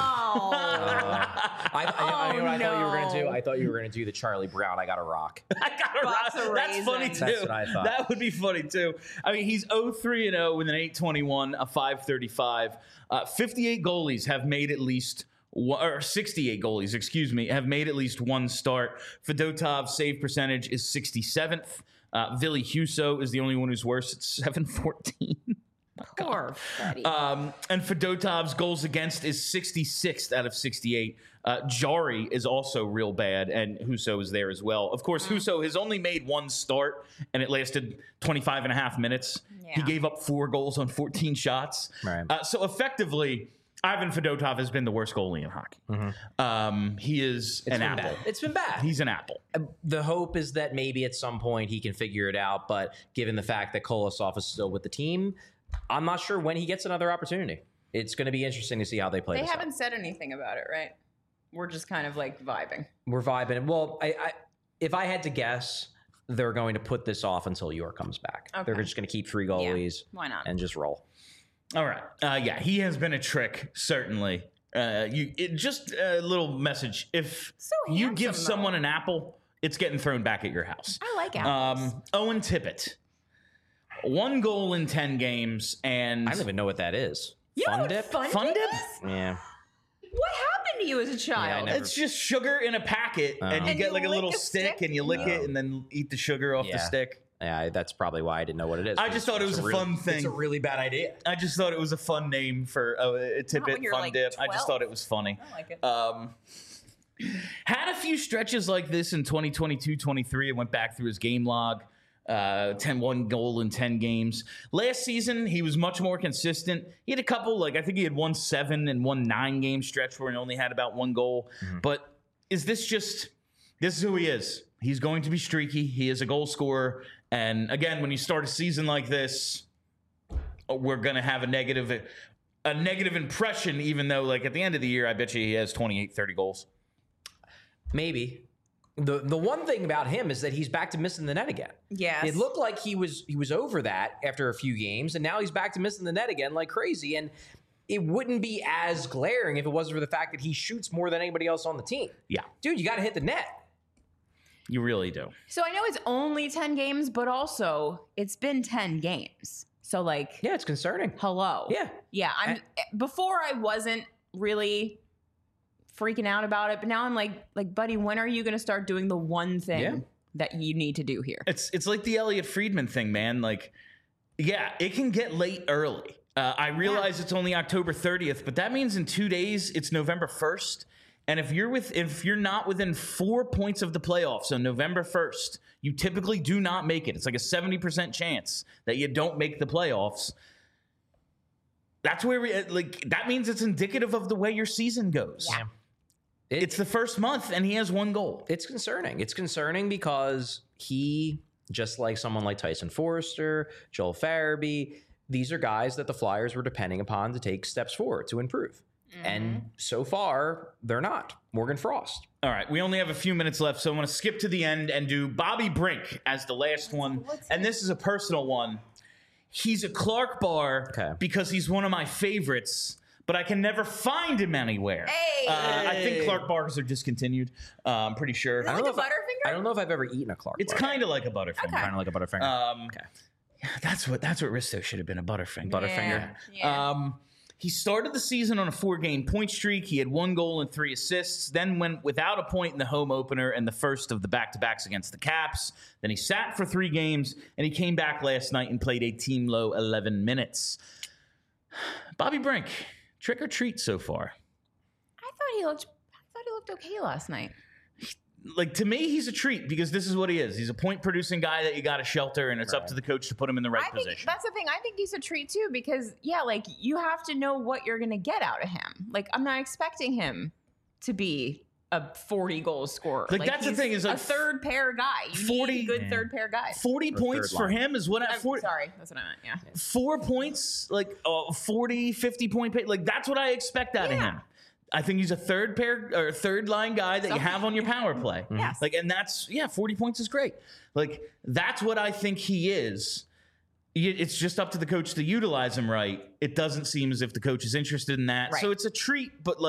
[SPEAKER 2] I know what I thought you were going to do?
[SPEAKER 3] no.
[SPEAKER 2] I thought you were going to do the Charlie Brown. I got a rock.
[SPEAKER 1] I got a
[SPEAKER 3] Box
[SPEAKER 1] rock.
[SPEAKER 3] of
[SPEAKER 1] That's funny
[SPEAKER 3] raisins.
[SPEAKER 1] too.
[SPEAKER 2] That's what I thought.
[SPEAKER 1] That would be funny too. I mean, he's 0-3-0 with an 821, a 535. 58 goalies have made at least. Or 68 goalies, excuse me, have made at least one start. Fedotov's save percentage is 67th. Ville Husso is the only one who's worse at 714.
[SPEAKER 3] Poor Freddy.
[SPEAKER 1] And Fedotov's goals against is 66th out of 68. Jari is also real bad, and Husso is there as well. Of course, Husso has only made one start, and it lasted 25 and a half minutes.
[SPEAKER 3] Yeah.
[SPEAKER 1] He gave up 4 goals on 14 shots.
[SPEAKER 2] Right.
[SPEAKER 1] So effectively, Ivan Fedotov has been the worst goalie in hockey. He is an apple.
[SPEAKER 2] Bad. It's been bad.
[SPEAKER 1] He's an apple.
[SPEAKER 2] The hope is that maybe at some point he can figure it out, but given the fact that Kolosov is still with the team, I'm not sure when he gets another opportunity. It's going to be interesting to see how they play
[SPEAKER 3] They
[SPEAKER 2] this out.
[SPEAKER 3] haven't said anything about it, right? We're just kind of like vibing.
[SPEAKER 2] We're vibing. Well, if I had to guess, they're going to put this off until York comes back.
[SPEAKER 3] Okay.
[SPEAKER 2] They're just going to keep 3 goalies
[SPEAKER 3] Why not?
[SPEAKER 2] and just roll.
[SPEAKER 1] All right. Yeah, he has been a trick, certainly. Just a little message. If
[SPEAKER 3] So
[SPEAKER 1] you
[SPEAKER 3] handsome,
[SPEAKER 1] give
[SPEAKER 3] though.
[SPEAKER 1] someone an apple, it's getting thrown back at your house.
[SPEAKER 3] I like apples.
[SPEAKER 1] Owen Tippett. 1 goal in 10 games, and
[SPEAKER 2] I don't even know what that is.
[SPEAKER 3] You know
[SPEAKER 2] Fun
[SPEAKER 3] what
[SPEAKER 2] dip?
[SPEAKER 3] Fun dip is?
[SPEAKER 2] Yeah.
[SPEAKER 3] What happened to you as a child?
[SPEAKER 2] never-
[SPEAKER 1] it's just sugar in a packet, and you
[SPEAKER 3] And
[SPEAKER 1] get
[SPEAKER 3] you
[SPEAKER 1] like a
[SPEAKER 3] lick
[SPEAKER 1] little
[SPEAKER 3] a
[SPEAKER 1] stick,
[SPEAKER 3] stick?
[SPEAKER 1] and you lick it, and then eat the sugar off the
[SPEAKER 2] Yeah.
[SPEAKER 1] stick.
[SPEAKER 2] That's probably why I didn't know what it is.
[SPEAKER 1] I just thought it was a fun thing.
[SPEAKER 2] It's a really bad idea.
[SPEAKER 1] I just thought it was a fun name for a tidbit,
[SPEAKER 3] when you're,
[SPEAKER 1] fun
[SPEAKER 3] like,
[SPEAKER 1] dip. I
[SPEAKER 3] 12.
[SPEAKER 1] just thought it was funny.
[SPEAKER 3] I like it.
[SPEAKER 1] Had a few stretches like this in 2022-23. I went back through his game log. 1 goal in 10 games. Last season, he was much more consistent. He had a couple, I think he had 1 7 and 1 9 game stretch where he only had about 1 goal. But is this is who he is. He's going to be streaky. He is a goal scorer. And again, when you start a season like this, we're going to have a negative impression, even though at the end of the year, I bet you he has 28, 30 goals.
[SPEAKER 2] Maybe. The one thing about him is that he's back to missing the net again.
[SPEAKER 3] Yes.
[SPEAKER 2] It looked like he was over that after a few games, and now he's back to missing the net again like crazy. And it wouldn't be as glaring if it wasn't for the fact that he shoots more than anybody else on the team.
[SPEAKER 1] Yeah.
[SPEAKER 2] Dude, you got to hit the net.
[SPEAKER 1] You really do.
[SPEAKER 3] So I know it's only 10 games, but also it's been 10 games. So
[SPEAKER 2] Yeah, it's concerning.
[SPEAKER 3] hello.
[SPEAKER 2] Yeah.
[SPEAKER 3] Yeah. Before I wasn't really freaking out about it, but now I'm like, buddy, when are you going to start doing the one thing that you need to do here?
[SPEAKER 1] It's like the Elliot Friedman thing, man. It can get late early. I realize it's only October 30th, but that means in 2 days it's November 1st. And if you're not within 4 points of the playoffs on November 1st, you typically do not make it. It's like a 70% chance that you don't make the playoffs. That's where that means it's indicative of the way your season goes.
[SPEAKER 3] Yeah.
[SPEAKER 1] It's the first month and he has 1 goal.
[SPEAKER 2] It's concerning. It's concerning because he, just like someone like Tyson Forrester, Joel Farabee, these are guys that the Flyers were depending upon to take steps forward to improve. And so far, they're not. Morgan Frost.
[SPEAKER 1] All right, we only have a few minutes left, so I want to skip to the end and do Bobby Brink as the last one. And this is a personal one. He's a Clark bar because he's one of my favorites, but I can never find him anywhere.
[SPEAKER 3] Hey!
[SPEAKER 1] I think Clark bars are discontinued. I'm pretty sure.
[SPEAKER 3] Is it like a Butterfinger?
[SPEAKER 2] I don't know if I've ever eaten a Clark
[SPEAKER 1] It's
[SPEAKER 2] bar.
[SPEAKER 1] kind of like a Butterfinger.
[SPEAKER 3] Okay.
[SPEAKER 2] Kind of like a Butterfinger.
[SPEAKER 1] That's what Risto should have been, a Butterfinger.
[SPEAKER 2] Butterfinger.
[SPEAKER 3] Yeah.
[SPEAKER 1] He started the season on a 4-game point streak. He had 1 goal and 3 assists, then went without a point in the home opener and the first of the back-to-backs against the Caps. Then he sat for 3 games, and he came back last night and played a team-low 11 minutes. Bobby Brink, trick or treat so far?
[SPEAKER 3] I thought he looked okay last night.
[SPEAKER 1] To me, he's a treat because this is what he is. He's a point-producing guy that you got to shelter, and it's up to the coach to put him in the right
[SPEAKER 3] I think
[SPEAKER 1] position.
[SPEAKER 3] that's the thing. I think he's a treat too because you have to know what you're going to get out of him. I'm not expecting him to be a 40-goal scorer.
[SPEAKER 1] That's the thing is
[SPEAKER 3] a third pair guy. You
[SPEAKER 1] 40
[SPEAKER 3] need a good third pair guy.
[SPEAKER 1] 40 points for him is what I...
[SPEAKER 3] Sorry, that's what I meant. Yeah.
[SPEAKER 1] 4 points, 40, 50 point pay. That's what I expect out of him. I think he's a third line guy that you have on your power play.
[SPEAKER 3] Yes.
[SPEAKER 1] And that's 40 points is great. That's what I think he is. It's just up to the coach to utilize him right. It doesn't seem as if the coach is interested in that.
[SPEAKER 3] Right.
[SPEAKER 1] So it's a treat, but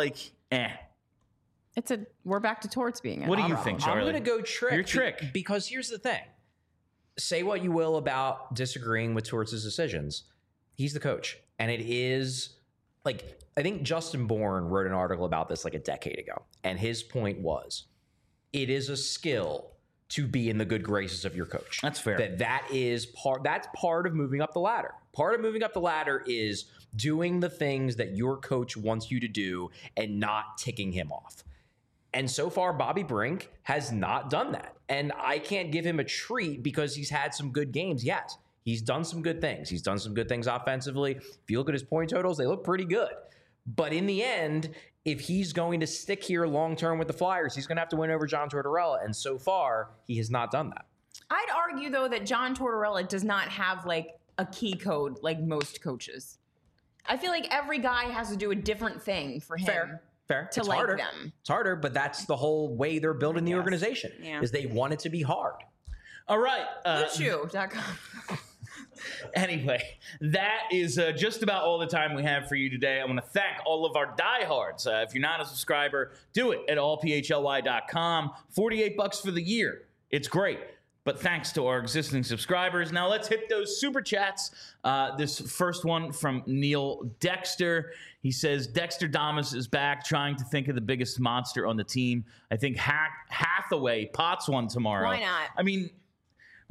[SPEAKER 3] We're back to Torts being.
[SPEAKER 1] What do you think, Charlie?
[SPEAKER 2] I'm going to go trick.
[SPEAKER 1] You're trick.
[SPEAKER 2] Because here's the thing. Say what you will about disagreeing with Torts' decisions. He's the coach. And it is I think Justin Bourne wrote an article about this a decade ago. And his point was, it is a skill to be in the good graces of your coach.
[SPEAKER 1] That's fair.
[SPEAKER 2] That's part of moving up the ladder. Part of moving up the ladder is doing the things that your coach wants you to do and not ticking him off. And so far, Bobby Brink has not done that. And I can't give him a treat because he's had some good games. Yes, he's done some good things. He's done some good things offensively. If you look at his point totals, they look pretty good. But in the end, if he's going to stick here long-term with the Flyers, he's going to have to win over John Tortorella. And so far, he has not done that.
[SPEAKER 3] I'd argue, though, that John Tortorella does not have a key code like most coaches. I feel like every guy has to do a different thing for him.
[SPEAKER 2] Fair.
[SPEAKER 3] To
[SPEAKER 2] it's
[SPEAKER 3] like
[SPEAKER 2] harder.
[SPEAKER 3] them.
[SPEAKER 2] It's harder, but that's the whole way they're building the organization.
[SPEAKER 3] Yeah.
[SPEAKER 2] Is they want it to be hard.
[SPEAKER 1] All right.
[SPEAKER 3] BlueChew.com.
[SPEAKER 1] Anyway, that is just about all the time we have for you today. I want to thank all of our diehards. If you're not a subscriber, do it at allphly.com. $48 for the year. It's great. But thanks to our existing subscribers. Now let's hit those super chats. This first one from Neil Dexter. He says, Dexter Damas is back trying to think of the biggest monster on the team. I think Hathaway pots one tomorrow.
[SPEAKER 3] Why not?
[SPEAKER 1] I mean,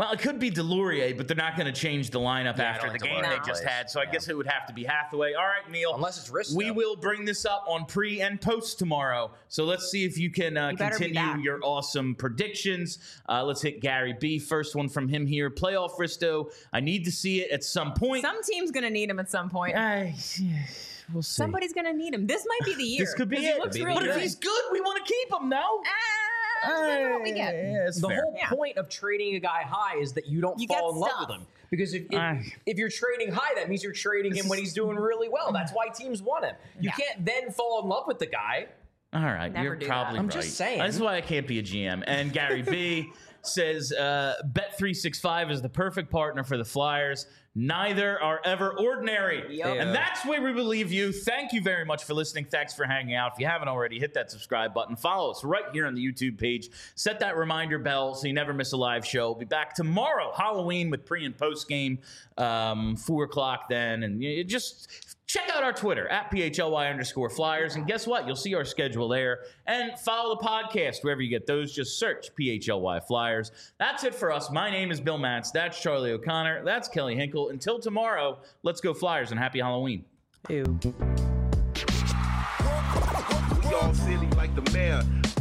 [SPEAKER 1] Well, it could be Delorier, but they're not going to change the lineup
[SPEAKER 2] Yeah, I
[SPEAKER 1] after
[SPEAKER 2] don't
[SPEAKER 1] the
[SPEAKER 2] think
[SPEAKER 1] game
[SPEAKER 3] Delorier
[SPEAKER 1] they just
[SPEAKER 2] plays.
[SPEAKER 1] had. So I guess it would have to be Hathaway. All right, Neil.
[SPEAKER 2] Unless it's Risto.
[SPEAKER 1] We will bring this up on pre and post tomorrow. So let's see if you can
[SPEAKER 3] better be
[SPEAKER 1] continue
[SPEAKER 3] back.
[SPEAKER 1] your awesome predictions. Let's hit Gary B. First one from him here. Playoff Risto. I need to see it at some point.
[SPEAKER 3] Some team's gonna need him at some point.
[SPEAKER 1] We'll see.
[SPEAKER 3] Somebody's gonna need him. This might be the year.
[SPEAKER 1] This could be
[SPEAKER 3] 'cause
[SPEAKER 1] it.
[SPEAKER 3] He looks
[SPEAKER 2] Could be
[SPEAKER 3] real
[SPEAKER 1] But
[SPEAKER 2] the
[SPEAKER 1] if
[SPEAKER 3] good.
[SPEAKER 1] he's good, we want to keep him, no?
[SPEAKER 3] Depends on what we get.
[SPEAKER 1] Yeah, it's
[SPEAKER 2] The
[SPEAKER 1] fair.
[SPEAKER 2] whole point of trading a guy high is that you don't
[SPEAKER 3] You
[SPEAKER 2] fall
[SPEAKER 3] get
[SPEAKER 2] in love
[SPEAKER 3] stuff.
[SPEAKER 2] with him. Because
[SPEAKER 1] Ah.
[SPEAKER 2] if you're trading high, that means you're trading him when he's doing really well. That's why teams want him. You
[SPEAKER 3] Yeah.
[SPEAKER 2] can't then fall in love with the guy.
[SPEAKER 1] All right,
[SPEAKER 3] Never
[SPEAKER 1] you're
[SPEAKER 3] do
[SPEAKER 1] probably
[SPEAKER 3] that.
[SPEAKER 2] I'm
[SPEAKER 1] right.
[SPEAKER 2] just saying.
[SPEAKER 1] That's why I can't be a GM. And Gary B says Bet365 is the perfect partner for the Flyers. Neither are ever ordinary.
[SPEAKER 3] Yep.
[SPEAKER 1] And
[SPEAKER 2] Yeah.
[SPEAKER 1] that's where we believe you. Thank you very much for listening. Thanks for hanging out. If you haven't already, hit that subscribe button. Follow us right here on the YouTube page. Set that reminder bell so you never miss a live show. We'll be back tomorrow, Halloween, with pre and post game, 4 o'clock then. And you just check out our Twitter at PHLY_Flyers. And guess what? You'll see our schedule there. And follow the podcast wherever you get those. Just search PHLY Flyers. That's it for us. My name is Bill Matz. That's Charlie O'Connor. That's Kelly Hinkle. Until tomorrow, let's go Flyers and happy Halloween.
[SPEAKER 4] We all silly like the mayor.